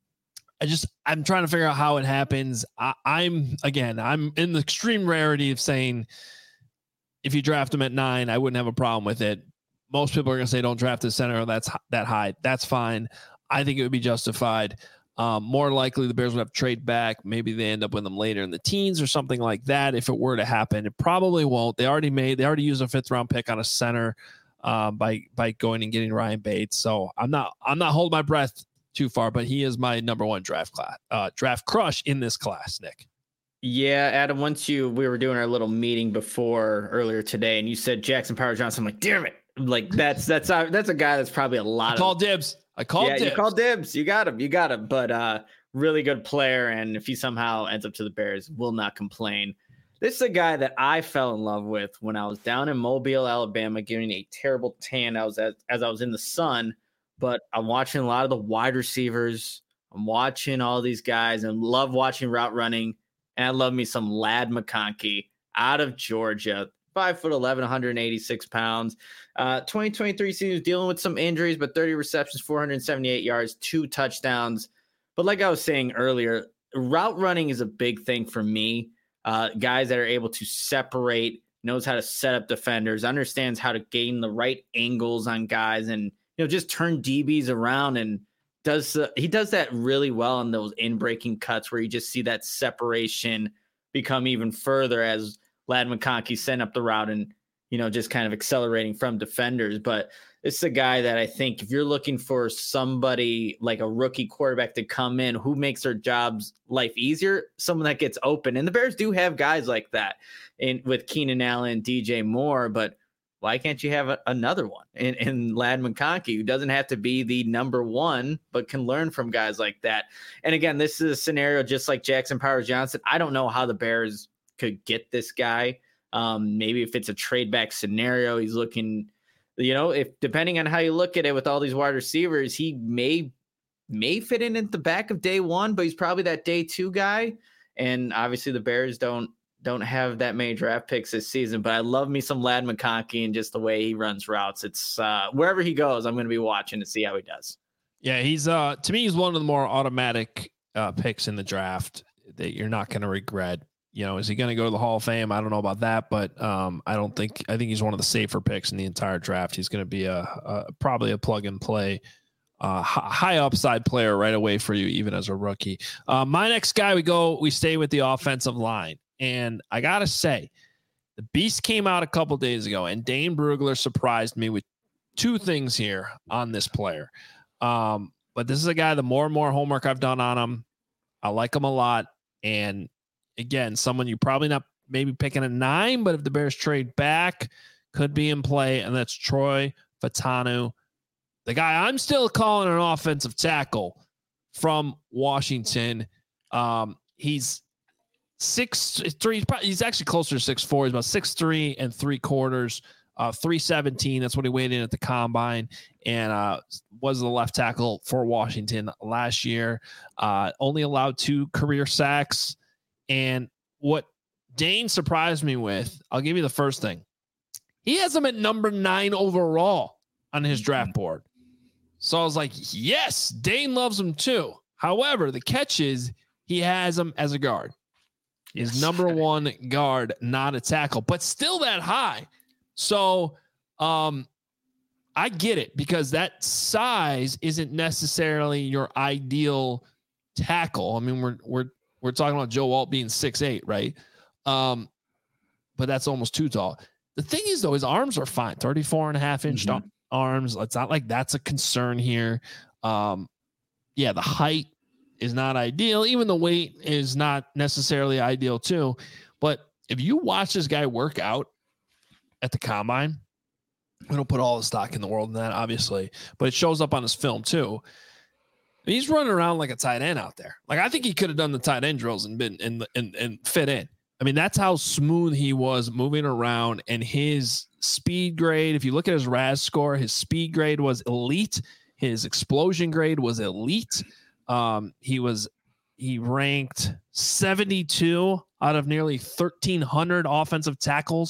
I just, I'm trying to figure out how it happens. I, I'm, again, I'm in the extreme rarity of saying if you draft him at nine, I wouldn't have a problem with it. Most people are going to say don't draft the center that's that high. That's fine. I think it would be justified. Um, more likely the Bears would have to trade back. Maybe they end up with them later in the teens or something like that. If it were to happen, it probably won't. They already made, they already used a fifth round pick on a center um, by, by going and getting Ryan Bates. So I'm not, I'm not holding my breath too far, but he is my number one draft class, uh, draft crush in this class, Nick. Yeah, Adam, once you, we were doing our little meeting before earlier today and you said Jackson Powers Johnson, I'm like, damn it. Like that's, that's, uh, that's a guy that's probably a lot I of call dibs. I called yeah, dibs. you called dibs. You got him. You got him. But uh, really good player. And if he somehow ends up to the Bears, will not complain. This is a guy that I fell in love with when I was down in Mobile, Alabama, getting a terrible tan. I was as, as I was in the sun. But I'm watching a lot of the wide receivers. I'm watching all these guys and love watching route running. And I love me some Ladd McConkey out of Georgia, five foot eleven, one hundred eighty-six pounds. Uh, twenty twenty-three season was dealing with some injuries, but thirty receptions, four hundred seventy-eight yards, two touchdowns. But like I was saying earlier, route running is a big thing for me. Uh, guys that are able to separate, knows how to set up defenders, understands how to gain the right angles on guys, and you know, just turn D Bs around and does uh, he does that really well in those in-breaking cuts where you just see that separation become even further as Ladd McConkey sent up the route and, you know, just kind of accelerating from defenders. But it's a guy that I think if you're looking for somebody like a rookie quarterback to come in who makes their jobs life easier, someone that gets open. And the Bears do have guys like that in with Keenan Allen, D J Moore, but why can't you have a, another one in, in Ladd McConkey who doesn't have to be the number one, but can learn from guys like that? And again, this is a scenario just like Jackson Powers Johnson. I don't know how the Bears could get this guy. Um, maybe if it's a trade back scenario, he's looking, you know, if depending on how you look at it with all these wide receivers, he may, may fit in at the back of day one, but he's probably that day two guy. And obviously the Bears don't, don't have that many draft picks this season, but I love me some Ladd McConkey and just the way he runs routes. It's uh, wherever he goes, I'm going to be watching to see how he does. Yeah. He's uh, to me, he's one of the more automatic uh, picks in the draft that you're not going to regret. You know, is he going to go to the Hall of Fame? I don't know about that, but um, I don't think, I think he's one of the safer picks in the entire draft. He's going to be a, a probably a plug and play, uh, high upside player right away for you, even as a rookie. Uh, my next guy, we go, we stay with the offensive line. And I got to say, the beast came out a couple days ago, and Dane Brugler surprised me with two things here on this player. Um, but this is a guy, the more and more homework I've done on him, I like him a lot. And again, someone you probably not maybe picking at nine, but if the Bears trade back, could be in play. And that's Troy Fautanu, the guy I'm still calling an offensive tackle from Washington. Um, he's six three. He's actually closer to six four. He's about six three and three quarters. Uh, three seventeen. That's what he weighed in at the combine, and uh, was the left tackle for Washington last year. Uh, only allowed two career sacks. And what Dane surprised me with, I'll give you the first thing. He has him at number nine overall on his draft board. So I was like, yes, Dane loves him too. However, the catch is he has him as a guard. His yes. number one guard, not a tackle, but still that high. So um, I get it, because that size isn't necessarily your ideal tackle. I mean, we're we're we're talking about Joe Alt being six eight, right? Um, but that's almost too tall. The thing is, though, his arms are fine, thirty-four and a half inch mm-hmm. arms. It's not like that's a concern here. Um, yeah, the height is not ideal. Even the weight is not necessarily ideal too. But if you watch this guy work out at the combine, we don't put all the stock in the world in that, obviously, but it shows up on his film too. He's running around like a tight end out there. Like, I think he could have done the tight end drills and been and and and fit in. I mean, that's how smooth he was moving around, and his speed grade. If you look at his R A S score, his speed grade was elite. His explosion grade was elite. Um, he was he ranked seventy-two out of nearly thirteen hundred offensive tackles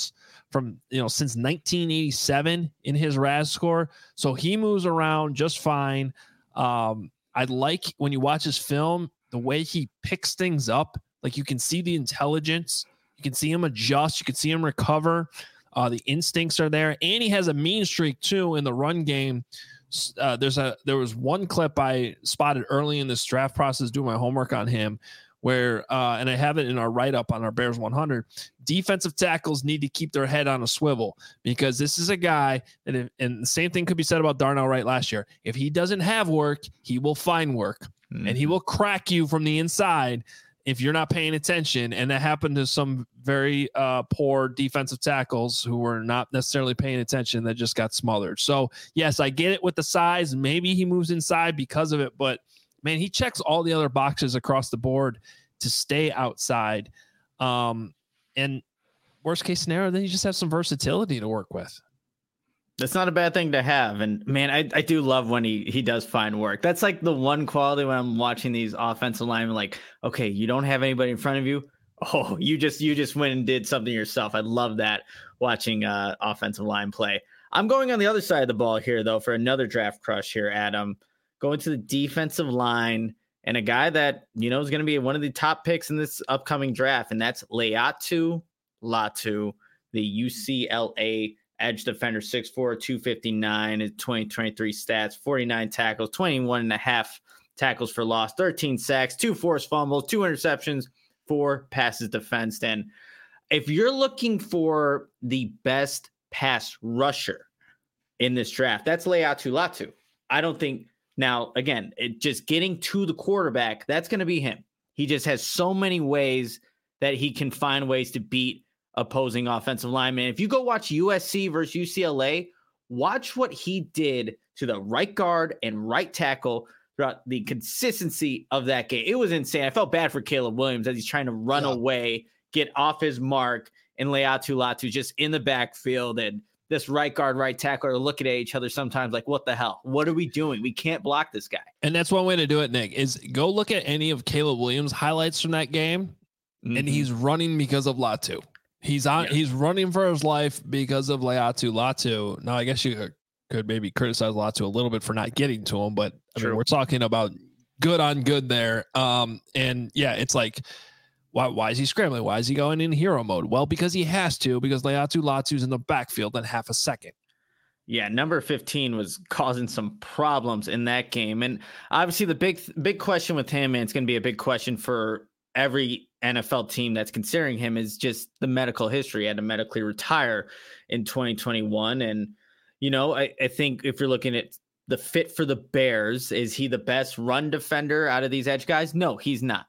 from, you know, since nineteen eighty-seven in his R A S score. So he moves around just fine. Um, I like when you watch his film, the way he picks things up. Like you can see the intelligence, you can see him adjust, you can see him recover. Uh, the instincts are there, and he has a mean streak too in the run game. Uh, there's a there was one clip I spotted early in this draft process, doing my homework on him, where uh, and I have it in our write up on our Bears one hundred. Defensive tackles need to keep their head on a swivel, because this is a guy that, if, and the same thing could be said about Darnell Wright last year. If he doesn't have work, he will find work, mm-hmm. and he will crack you from the inside if you're not paying attention. And that happened to some very uh, poor defensive tackles who were not necessarily paying attention, that just got smothered. So yes, I get it with the size. Maybe he moves inside because of it, but man, he checks all the other boxes across the board to stay outside. Um, and worst case scenario, then you just have some versatility to work with. That's not a bad thing to have. And man, I, I do love when he, he does find work. That's like the one quality when I'm watching these offensive linemen, like, okay, you don't have anybody in front of you. Oh, you just, you just went and did something yourself. I love that, watching uh offensive line play. I'm going on the other side of the ball here though, for another draft crush here, Adam, going to the defensive line, and a guy that, you know, is going to be one of the top picks in this upcoming draft. And that's Laiatu Latu, the U C L A edge defender, six four, two fifty-nine, his twenty twenty-three stats, forty-nine tackles, twenty-one and a half tackles for loss, thirteen sacks, two forced fumbles, two interceptions, four passes defensed. And if you're looking for the best pass rusher in this draft, that's Laiatu Latu. I don't think, now, again, it just getting to the quarterback, that's going to be him. He just has so many ways that he can find ways to beat opposing offensive linemen. If you go watch U S C versus U C L A, watch what he did to the right guard and right tackle throughout the consistency of that game. It was insane. I felt bad for Caleb Williams as he's trying to run yeah. away, get off his mark, and Laiatu Latu just in the backfield. And this right guard, right tackle are looking at each other sometimes like, what the hell? What are we doing? We can't block this guy. And that's one way to do it, Nick, is go look at any of Caleb Williams' highlights from that game, mm-hmm. and he's running because of Latu. He's on. Yeah. He's running for his life because of Laiatu Latu. Now, I guess you could maybe criticize Latu a little bit for not getting to him, but I mean, we're talking about good on good there. Um, and yeah, it's like, why? Why is he scrambling? Why is he going in hero mode? Well, because he has to. Because Laiatu Latu's in the backfield in half a second. Yeah, number fifteen was causing some problems in that game, and obviously the big big question with him, and it's going to be a big question for every N F L team that's considering him, is just the medical history. He had to medically retire in twenty twenty-one. And, you know, I, I think if you're looking at the fit for the Bears, is he the best run defender out of these edge guys? No, he's not.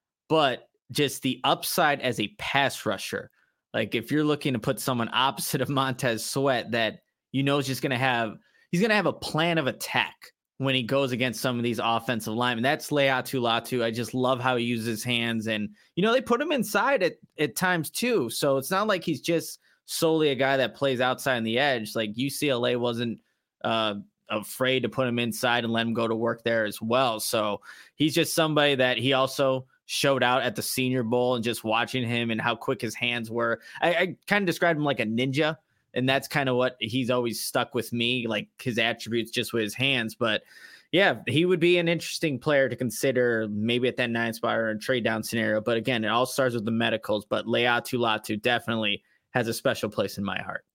But just the upside as a pass rusher, like if you're looking to put someone opposite of Montez Sweat that, you know, is just going to have, he's going to have a plan of attack when he goes against some of these offensive linemen. That's Laiatu Latu. I just love how he uses his hands. And, you know, they put him inside at, at times too. So it's not like he's just solely a guy that plays outside on the edge. Like U C L A wasn't uh, afraid to put him inside and let him go to work there as well. So he's just somebody that he also showed out at the Senior Bowl, and just watching him and how quick his hands were. I, I kind of described him like a ninja. And that's kind of what he's always stuck with me, like his attributes just with his hands. But yeah, he would be an interesting player to consider maybe at that nine spot or a trade down scenario. But again, it all starts with the medicals. But Laiatu Latu definitely has a special place in my heart.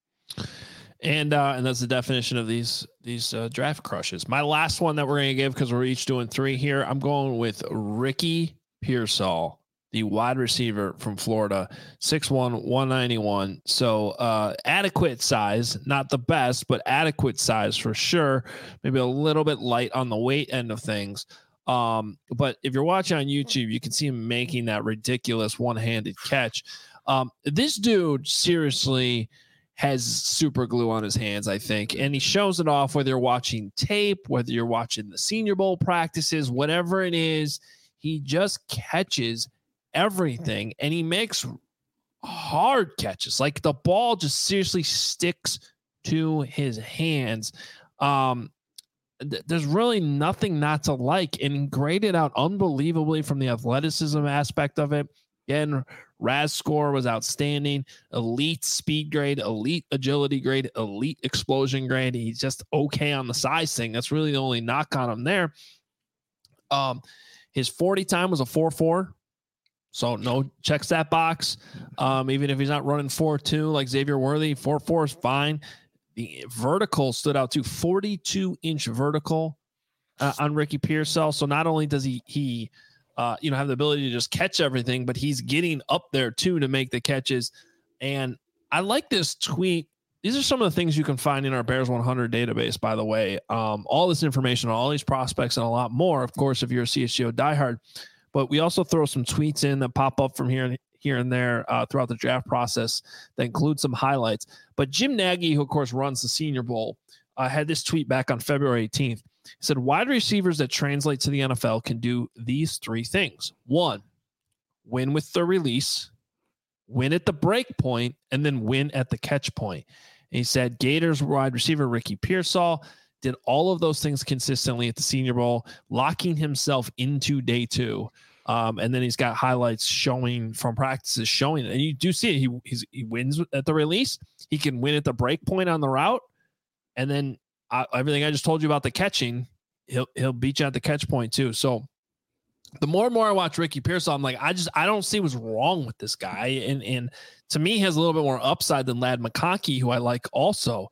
And uh, and that's the definition of these these uh, draft crushes. My last one that we're going to give, because we're each doing three here, I'm going with Ricky Pearsall, the wide receiver from Florida, six one, one ninety-one. So uh, adequate size, not the best, but adequate size for sure. Maybe a little bit light on the weight end of things. Um, but if you're watching on YouTube, you can see him making that ridiculous one-handed catch. Um, this dude seriously has super glue on his hands, I think. And he shows it off whether you're watching tape, whether you're watching the Senior Bowl practices, whatever it is, he just catches everything, and he makes hard catches. Like the ball just seriously sticks to his hands. Um, th- there's really nothing not to like, and he graded out unbelievably from the athleticism aspect of it. Again, R A S score was outstanding. Elite speed grade, elite agility grade, elite explosion grade. He's just okay on the size thing. That's really the only knock on him there. Um, his forty time was a four four. So no, checks that box. Um, even if he's not running four two like Xavier Worthy, four four is fine. The vertical stood out to forty-two inch vertical uh, on Ricky Pearsall. So not only does he he uh, you know have the ability to just catch everything, but he's getting up there too to make the catches. And I like this tweet. These are some of the things you can find in our Bears one hundred database, by the way. Um, all this information on all these prospects and a lot more, of course, if you're a C H G O diehard. But we also throw some tweets in that pop up from here and here and there uh, throughout the draft process that include some highlights. But Jim Nagy, who of course runs the Senior Bowl, uh, had this tweet back on February eighteenth. He said, wide receivers that translate to the N F L can do these three things. One, win with the release, win at the break point, and then win at the catch point. And he said Gators wide receiver Ricky Pearsall did all of those things consistently at the Senior Bowl, locking himself into day two. Um, and then he's got highlights showing from practices showing it. And you do see it. He he's, he wins at the release. He can win at the break point on the route. And then uh, everything I just told you about the catching, he'll he'll beat you at the catch point too. So the more and more I watch Ricky Pearsall, I'm like, I just I don't see what's wrong with this guy. And and to me, he has a little bit more upside than Ladd McConkey, who I like also.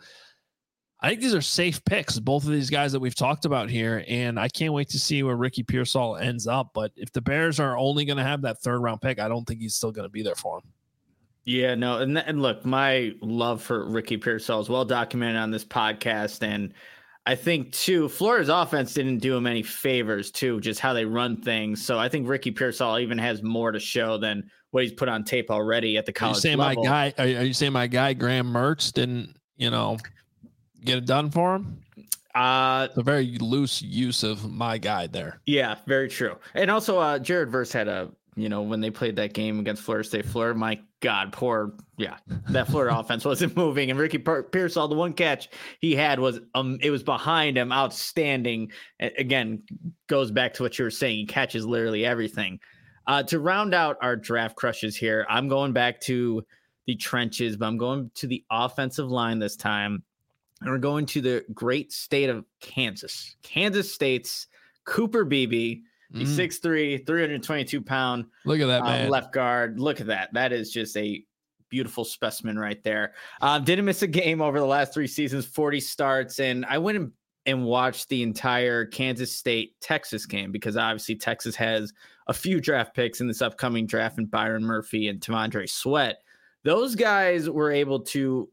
I think these are safe picks, both of these guys that we've talked about here, and I can't wait to see where Ricky Pearsall ends up. But if the Bears are only going to have that third round pick, I don't think he's still going to be there for him. Yeah, no, and and look, my love for Ricky Pearsall is well documented on this podcast, and I think too, Florida's offense didn't do him any favors too, just how they run things. So I think Ricky Pearsall even has more to show than what he's put on tape already at the college are you saying level. My guy, are you saying my guy Graham Mertz didn't, you know, get it done for him? Uh, it's a very loose use of my guy there. Yeah, very true. And also, uh, Jared Verse had a, you know, when they played that game against Florida State, Florida, my God, poor, yeah, that Florida offense wasn't moving. And Ricky Pearsall, the one catch he had was, um, it was behind him, outstanding. Again, goes back to what you were saying. He catches literally everything. Uh, to round out our draft crushes here, I'm going back to the trenches, but I'm going to the offensive line this time. And we're going to the great state of Kansas. Kansas State's Cooper Beebe, the mm. six three, three hundred twenty-two pound Look at that, uh, man. left guard. Look at that. That is just a beautiful specimen right there. Um, didn't miss a game over the last three seasons, forty starts. And I went and, and watched the entire Kansas State-Texas game because obviously Texas has a few draft picks in this upcoming draft, and Byron Murphy and T'Vondre Sweat. Those guys were able to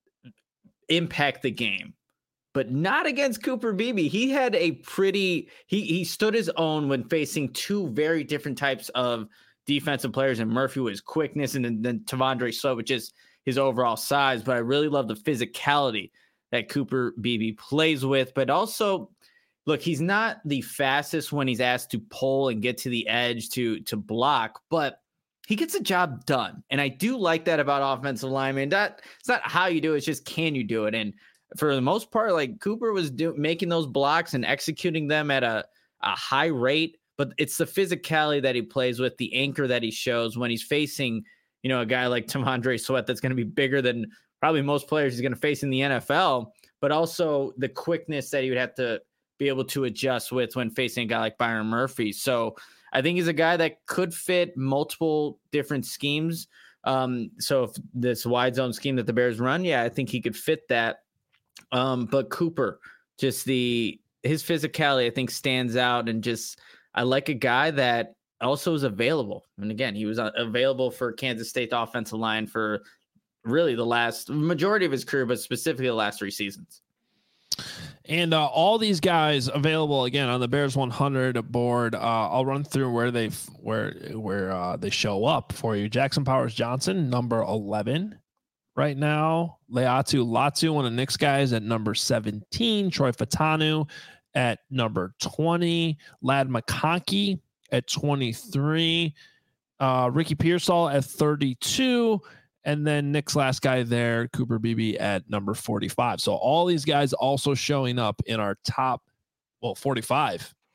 impact the game, but not against Cooper Beebe. He had a pretty, he he stood his own when facing two very different types of defensive players, and Murphy with his quickness, and then, then T'Vondre Sweat with just his overall size. But I really love the physicality that Cooper Beebe plays with. But also, look, he's not the fastest when he's asked to pull and get to the edge to to block, but he gets the job done. And I do like that about offensive linemen. That it's not how you do it, it's just can you do it? And for the most part, like Cooper was do, making those blocks and executing them at a, a high rate, but it's the physicality that he plays with, the anchor that he shows when he's facing, you know, a guy like T'Vondre Sweat that's going to be bigger than probably most players he's going to face in the N F L, but also the quickness that he would have to be able to adjust with when facing a guy like Byron Murphy. So I think he's a guy that could fit multiple different schemes. Um, so if this wide zone scheme that the Bears run, yeah, I think he could fit that. Um, but Cooper, just the his physicality, I think, stands out, and just I like a guy that also is available. And again, he was available for Kansas State offensive line for really the last majority of his career, but specifically the last three seasons. And uh, all these guys available again on the Bears one hundred board. Uh, I'll run through where they where where uh, they show up for you. Jackson Powers Johnson, number eleven, right now. Leatu Latu, one of the Knicks guys, at number seventeen. Troy Fatanu at number twenty. Ladd McConkey at twenty-three. Uh, Ricky Pearsall at thirty-two. And then Nick's last guy there, Cooper Beebe, at number forty-five. So all these guys also showing up in our top, well, forty-five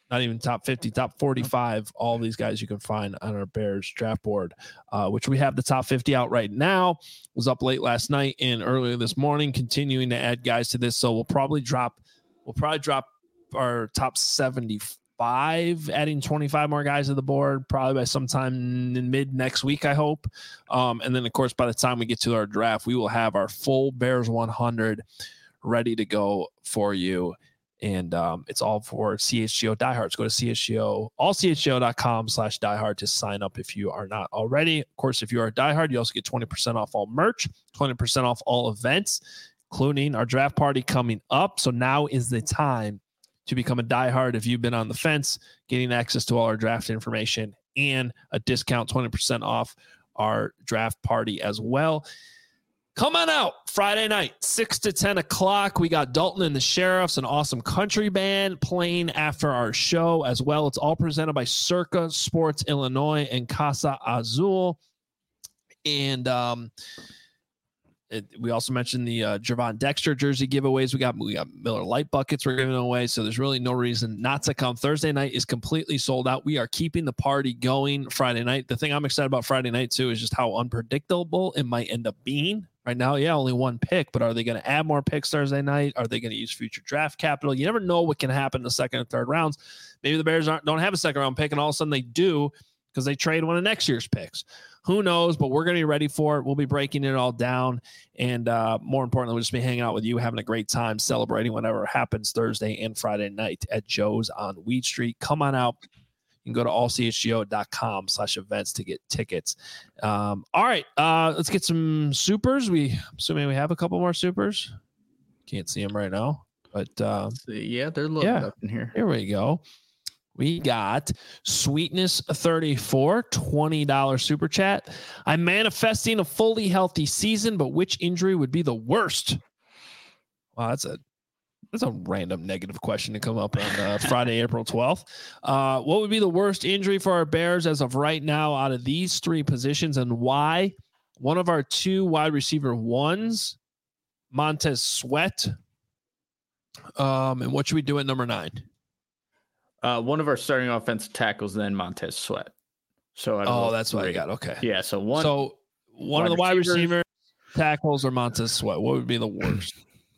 not even top fifty, top forty-five. All these guys you can find on our Bears draft board, uh, which we have the top fifty out right now. Was up late last night and earlier this morning, continuing to add guys to this. So we'll probably drop, we'll probably drop our top seventy-five, adding twenty-five more guys to the board, probably by sometime in mid next week, I hope. Um, and then, of course, by the time we get to our draft, we will have our full Bears one hundred ready to go for you. And um, it's all for C H G O diehards. Go to C H G O, all C H G O dot com slash diehard to sign up if you are not already. Of course, if you are a diehard, you also get twenty percent off all merch, twenty percent off all events, including our draft party coming up. So now is the time to become a diehard if you've been on the fence, getting access to all our draft information and a discount, twenty percent off our draft party as well. Come on out Friday night, six to ten o'clock. We got Dalton and the Sheriffs, an awesome country band playing after our show as well. It's all presented by Circa Sports Illinois and Casa Azul. And um, it, we also mentioned the uh, Javon Dexter jersey giveaways. We got, we got Miller Lite buckets we're giving away. So there's really no reason not to come. Thursday night is completely sold out. We are keeping the party going Friday night. The thing I'm excited about Friday night too is just how unpredictable it might end up being. Right now, yeah, only one pick, but are they going to add more picks Thursday night? Are they going to use future draft capital? You never know what can happen in the second and third rounds. Maybe the Bears aren't, don't have a second round pick, and all of a sudden they do because they trade one of next year's picks. Who knows? But we're going to be ready for it. We'll be breaking it all down. And uh, more importantly, we'll just be hanging out with you, having a great time, celebrating whatever happens Thursday and Friday night at Joe's on Weed Street. Come on out. You can go to all C H G O dot com slash events to get tickets. Um, all right, uh, let's get some supers. We assuming we have a couple more supers. Can't see them right now, but uh, yeah, they're loaded yeah, up in here. Here we go. We got Sweetness thirty-four, twenty dollars super chat. I'm manifesting a fully healthy season, but which injury would be the worst? Wow, that's a That's a random negative question to come up on uh, Friday, April twelfth. Uh, what would be the worst injury for our Bears as of right now out of these three positions, and why? One of our two wide receiver ones, Montez Sweat. Um, and what should we do at number nine? Uh, one of our starting offensive tackles, then Montez Sweat. So oh, that's what I got. Okay. Yeah. So one. So one of the wide receiver tackles or Montez Sweat. What would be the worst?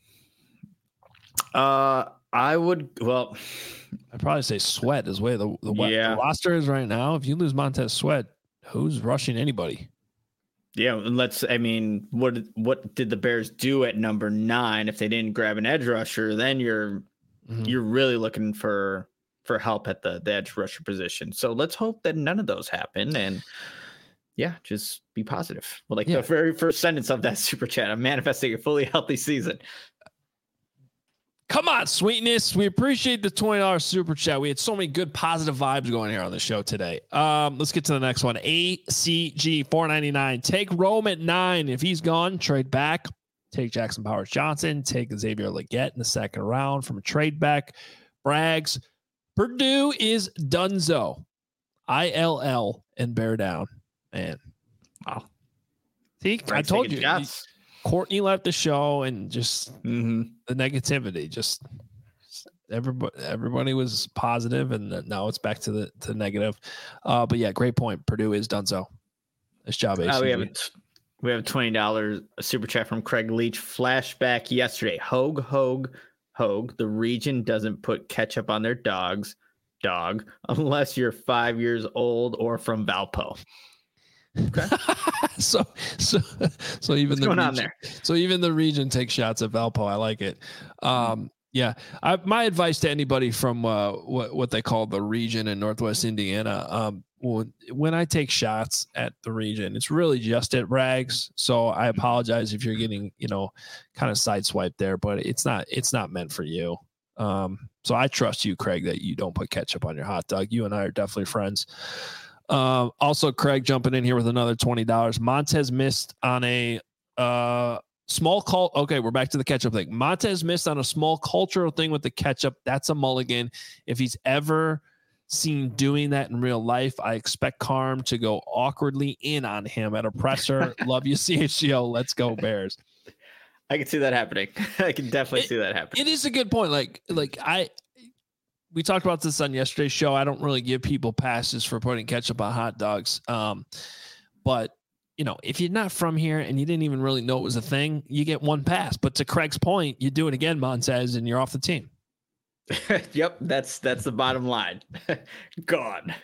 Uh, I would, well, I'd probably say Sweat is way the, the, yeah. the roster is right now. If you lose Montez Sweat, who's rushing anybody? Yeah. And let's, I mean, what, what did the Bears do at number nine? If they didn't grab an edge rusher, then you're, mm-hmm. you're really looking for, for help at the, the edge rusher position. So let's hope that none of those happen. And yeah, just be positive. Well, like yeah. the very first sentence of that super chat, I'm manifesting a fully healthy season. Come on, Sweetness. We appreciate the twenty dollars super chat. We had so many good positive vibes going here on the show today. Um, let's get to the next one. A C G four ninety-nine. Take Rome at nine. If he's gone, trade back. Take Jackson Powers Johnson. Take Xavier Legette in the second round from a trade back. Braggs. Purdue is Dunzo. I L L and bear down. Man. Wow. See, Braggs I told you. Shots. Courtney left the show and just mm-hmm. the negativity, just everybody, everybody was positive and now it's back to the to negative. Uh, but yeah, great point. Purdue is Dunzo. Nice job, A C G. Uh, we have a, we have a twenty dollars super chat from Craig Leach. Flashback yesterday. Hogue, Hogue, Hogue. The region doesn't put ketchup on their dogs, dog, unless you're five years old or from Valpo. Okay. so so so even What's the going region, on there? So even the region takes shots at Valpo. I like it. Um, yeah, I, my advice to anybody from uh, what what they call the region in Northwest Indiana. Um, when, when I take shots at the region, it's really just at Braggs. So I apologize if you're getting you know kind of sideswiped there, but it's not it's not meant for you. Um, so I trust you, Craig, that you don't put ketchup on your hot dog. You and I are definitely friends. Uh, also, Craig jumping in here with another twenty dollars. Montez missed on a uh, small call. Okay, we're back to the ketchup thing. Montez missed on a small cultural thing with the ketchup. That's a mulligan. If he's ever seen doing that in real life, I expect Carm to go awkwardly in on him at a presser. Love you, C H G O. Let's go, Bears. I can see that happening. I can definitely it, see that happening. It is a good point. Like, like I... we talked about this on yesterday's show. I don't really give people passes for putting ketchup on hot dogs. Um, but you know, if you're not from here and you didn't even really know it was a thing, you get one pass. But to Craig's point, you do it again, Montez, and you're off the team. Yep, that's that's the bottom line. Gone.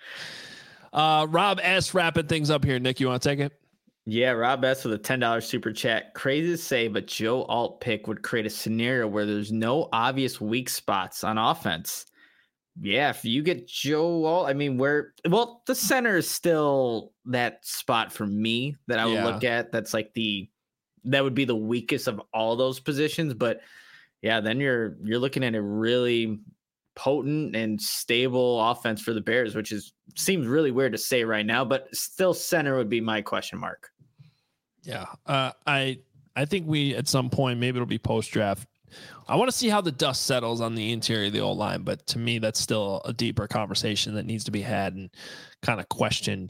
Uh, Rob S. wrapping things up here. Nick, you want to take it? Yeah, Rob S. with a ten dollars super chat. Crazy to say, but Joe Alt pick would create a scenario where there's no obvious weak spots on offense. Yeah, if you get Joe Alt, I mean, where, well, the center is still that spot for me that I would yeah. look at. That's like the, that would be the weakest of all those positions. But yeah, then you're, you're looking at a really potent and stable offense for the Bears, which is, seems really weird to say right now, but still center would be my question mark. Yeah. Uh, I, I think we, at some point, maybe it'll be post draft. I want to see how the dust settles on the interior of the old line, but to me, that's still a deeper conversation that needs to be had and kind of questioned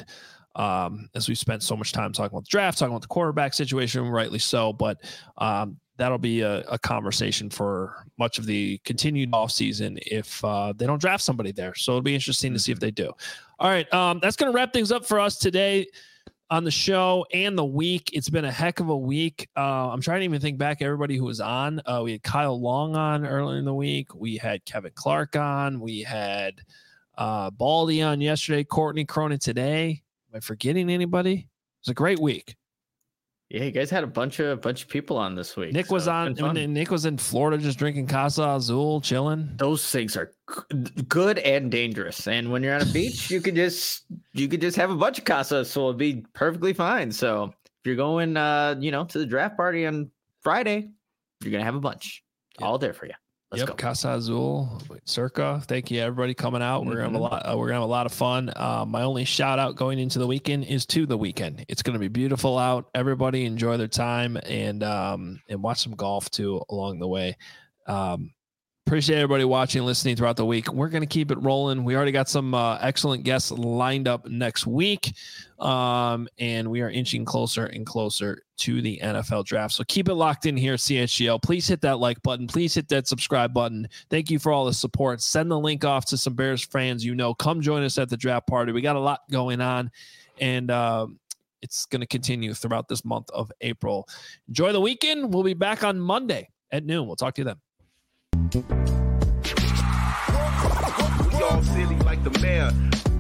um, as we spent so much time talking about the draft, talking about the quarterback situation, rightly so, but um, that'll be a, a conversation for much of the continued offseason if uh, they don't draft somebody there. So it'll be interesting to see if they do. All right, um, that's going to wrap things up for us today on the show and the week. It's been a heck of a week. Uh, I'm trying to even think back everybody who was on. Uh, we had Kyle Long on earlier in the week. We had Kevin Clark on. We had uh, Baldy on yesterday. Courtney Cronin today. Am I forgetting anybody? It was a great week. Yeah, you guys had a bunch of bunch of people on this week. Nick so was on. Nick was in Florida just drinking Casa Azul, chilling. Those things are good and dangerous. And when you're on a beach, you could just you could just have a bunch of Casa Azul. It'd be perfectly fine. So if you're going, uh, you know, to the draft party on Friday, you're gonna have a bunch yep. all there for you. Let's yep, go. Casa Azul, Circa. Thank you, everybody, coming out. Mm-hmm. We're gonna have a lot. Uh, we're gonna have a lot of fun. Uh, my only shout out going into the weekend is to the weekend. It's gonna be beautiful out. Everybody enjoy their time and um and watch some golf too along the way. Um, appreciate everybody watching and listening throughout the week. We're gonna keep it rolling. We already got some uh, excellent guests lined up next week, um, and we are inching closer and closer to the N F L draft. So keep it locked in here, C H G L. Please hit that like button. Please hit that subscribe button. Thank you for all the support. Send the link off to some Bears fans you know. Come join us at the draft party. We got a lot going on, and uh, it's going to continue throughout this month of April. Enjoy the weekend. We'll be back on Monday at noon. We'll talk to you then. We all silly like the mayor.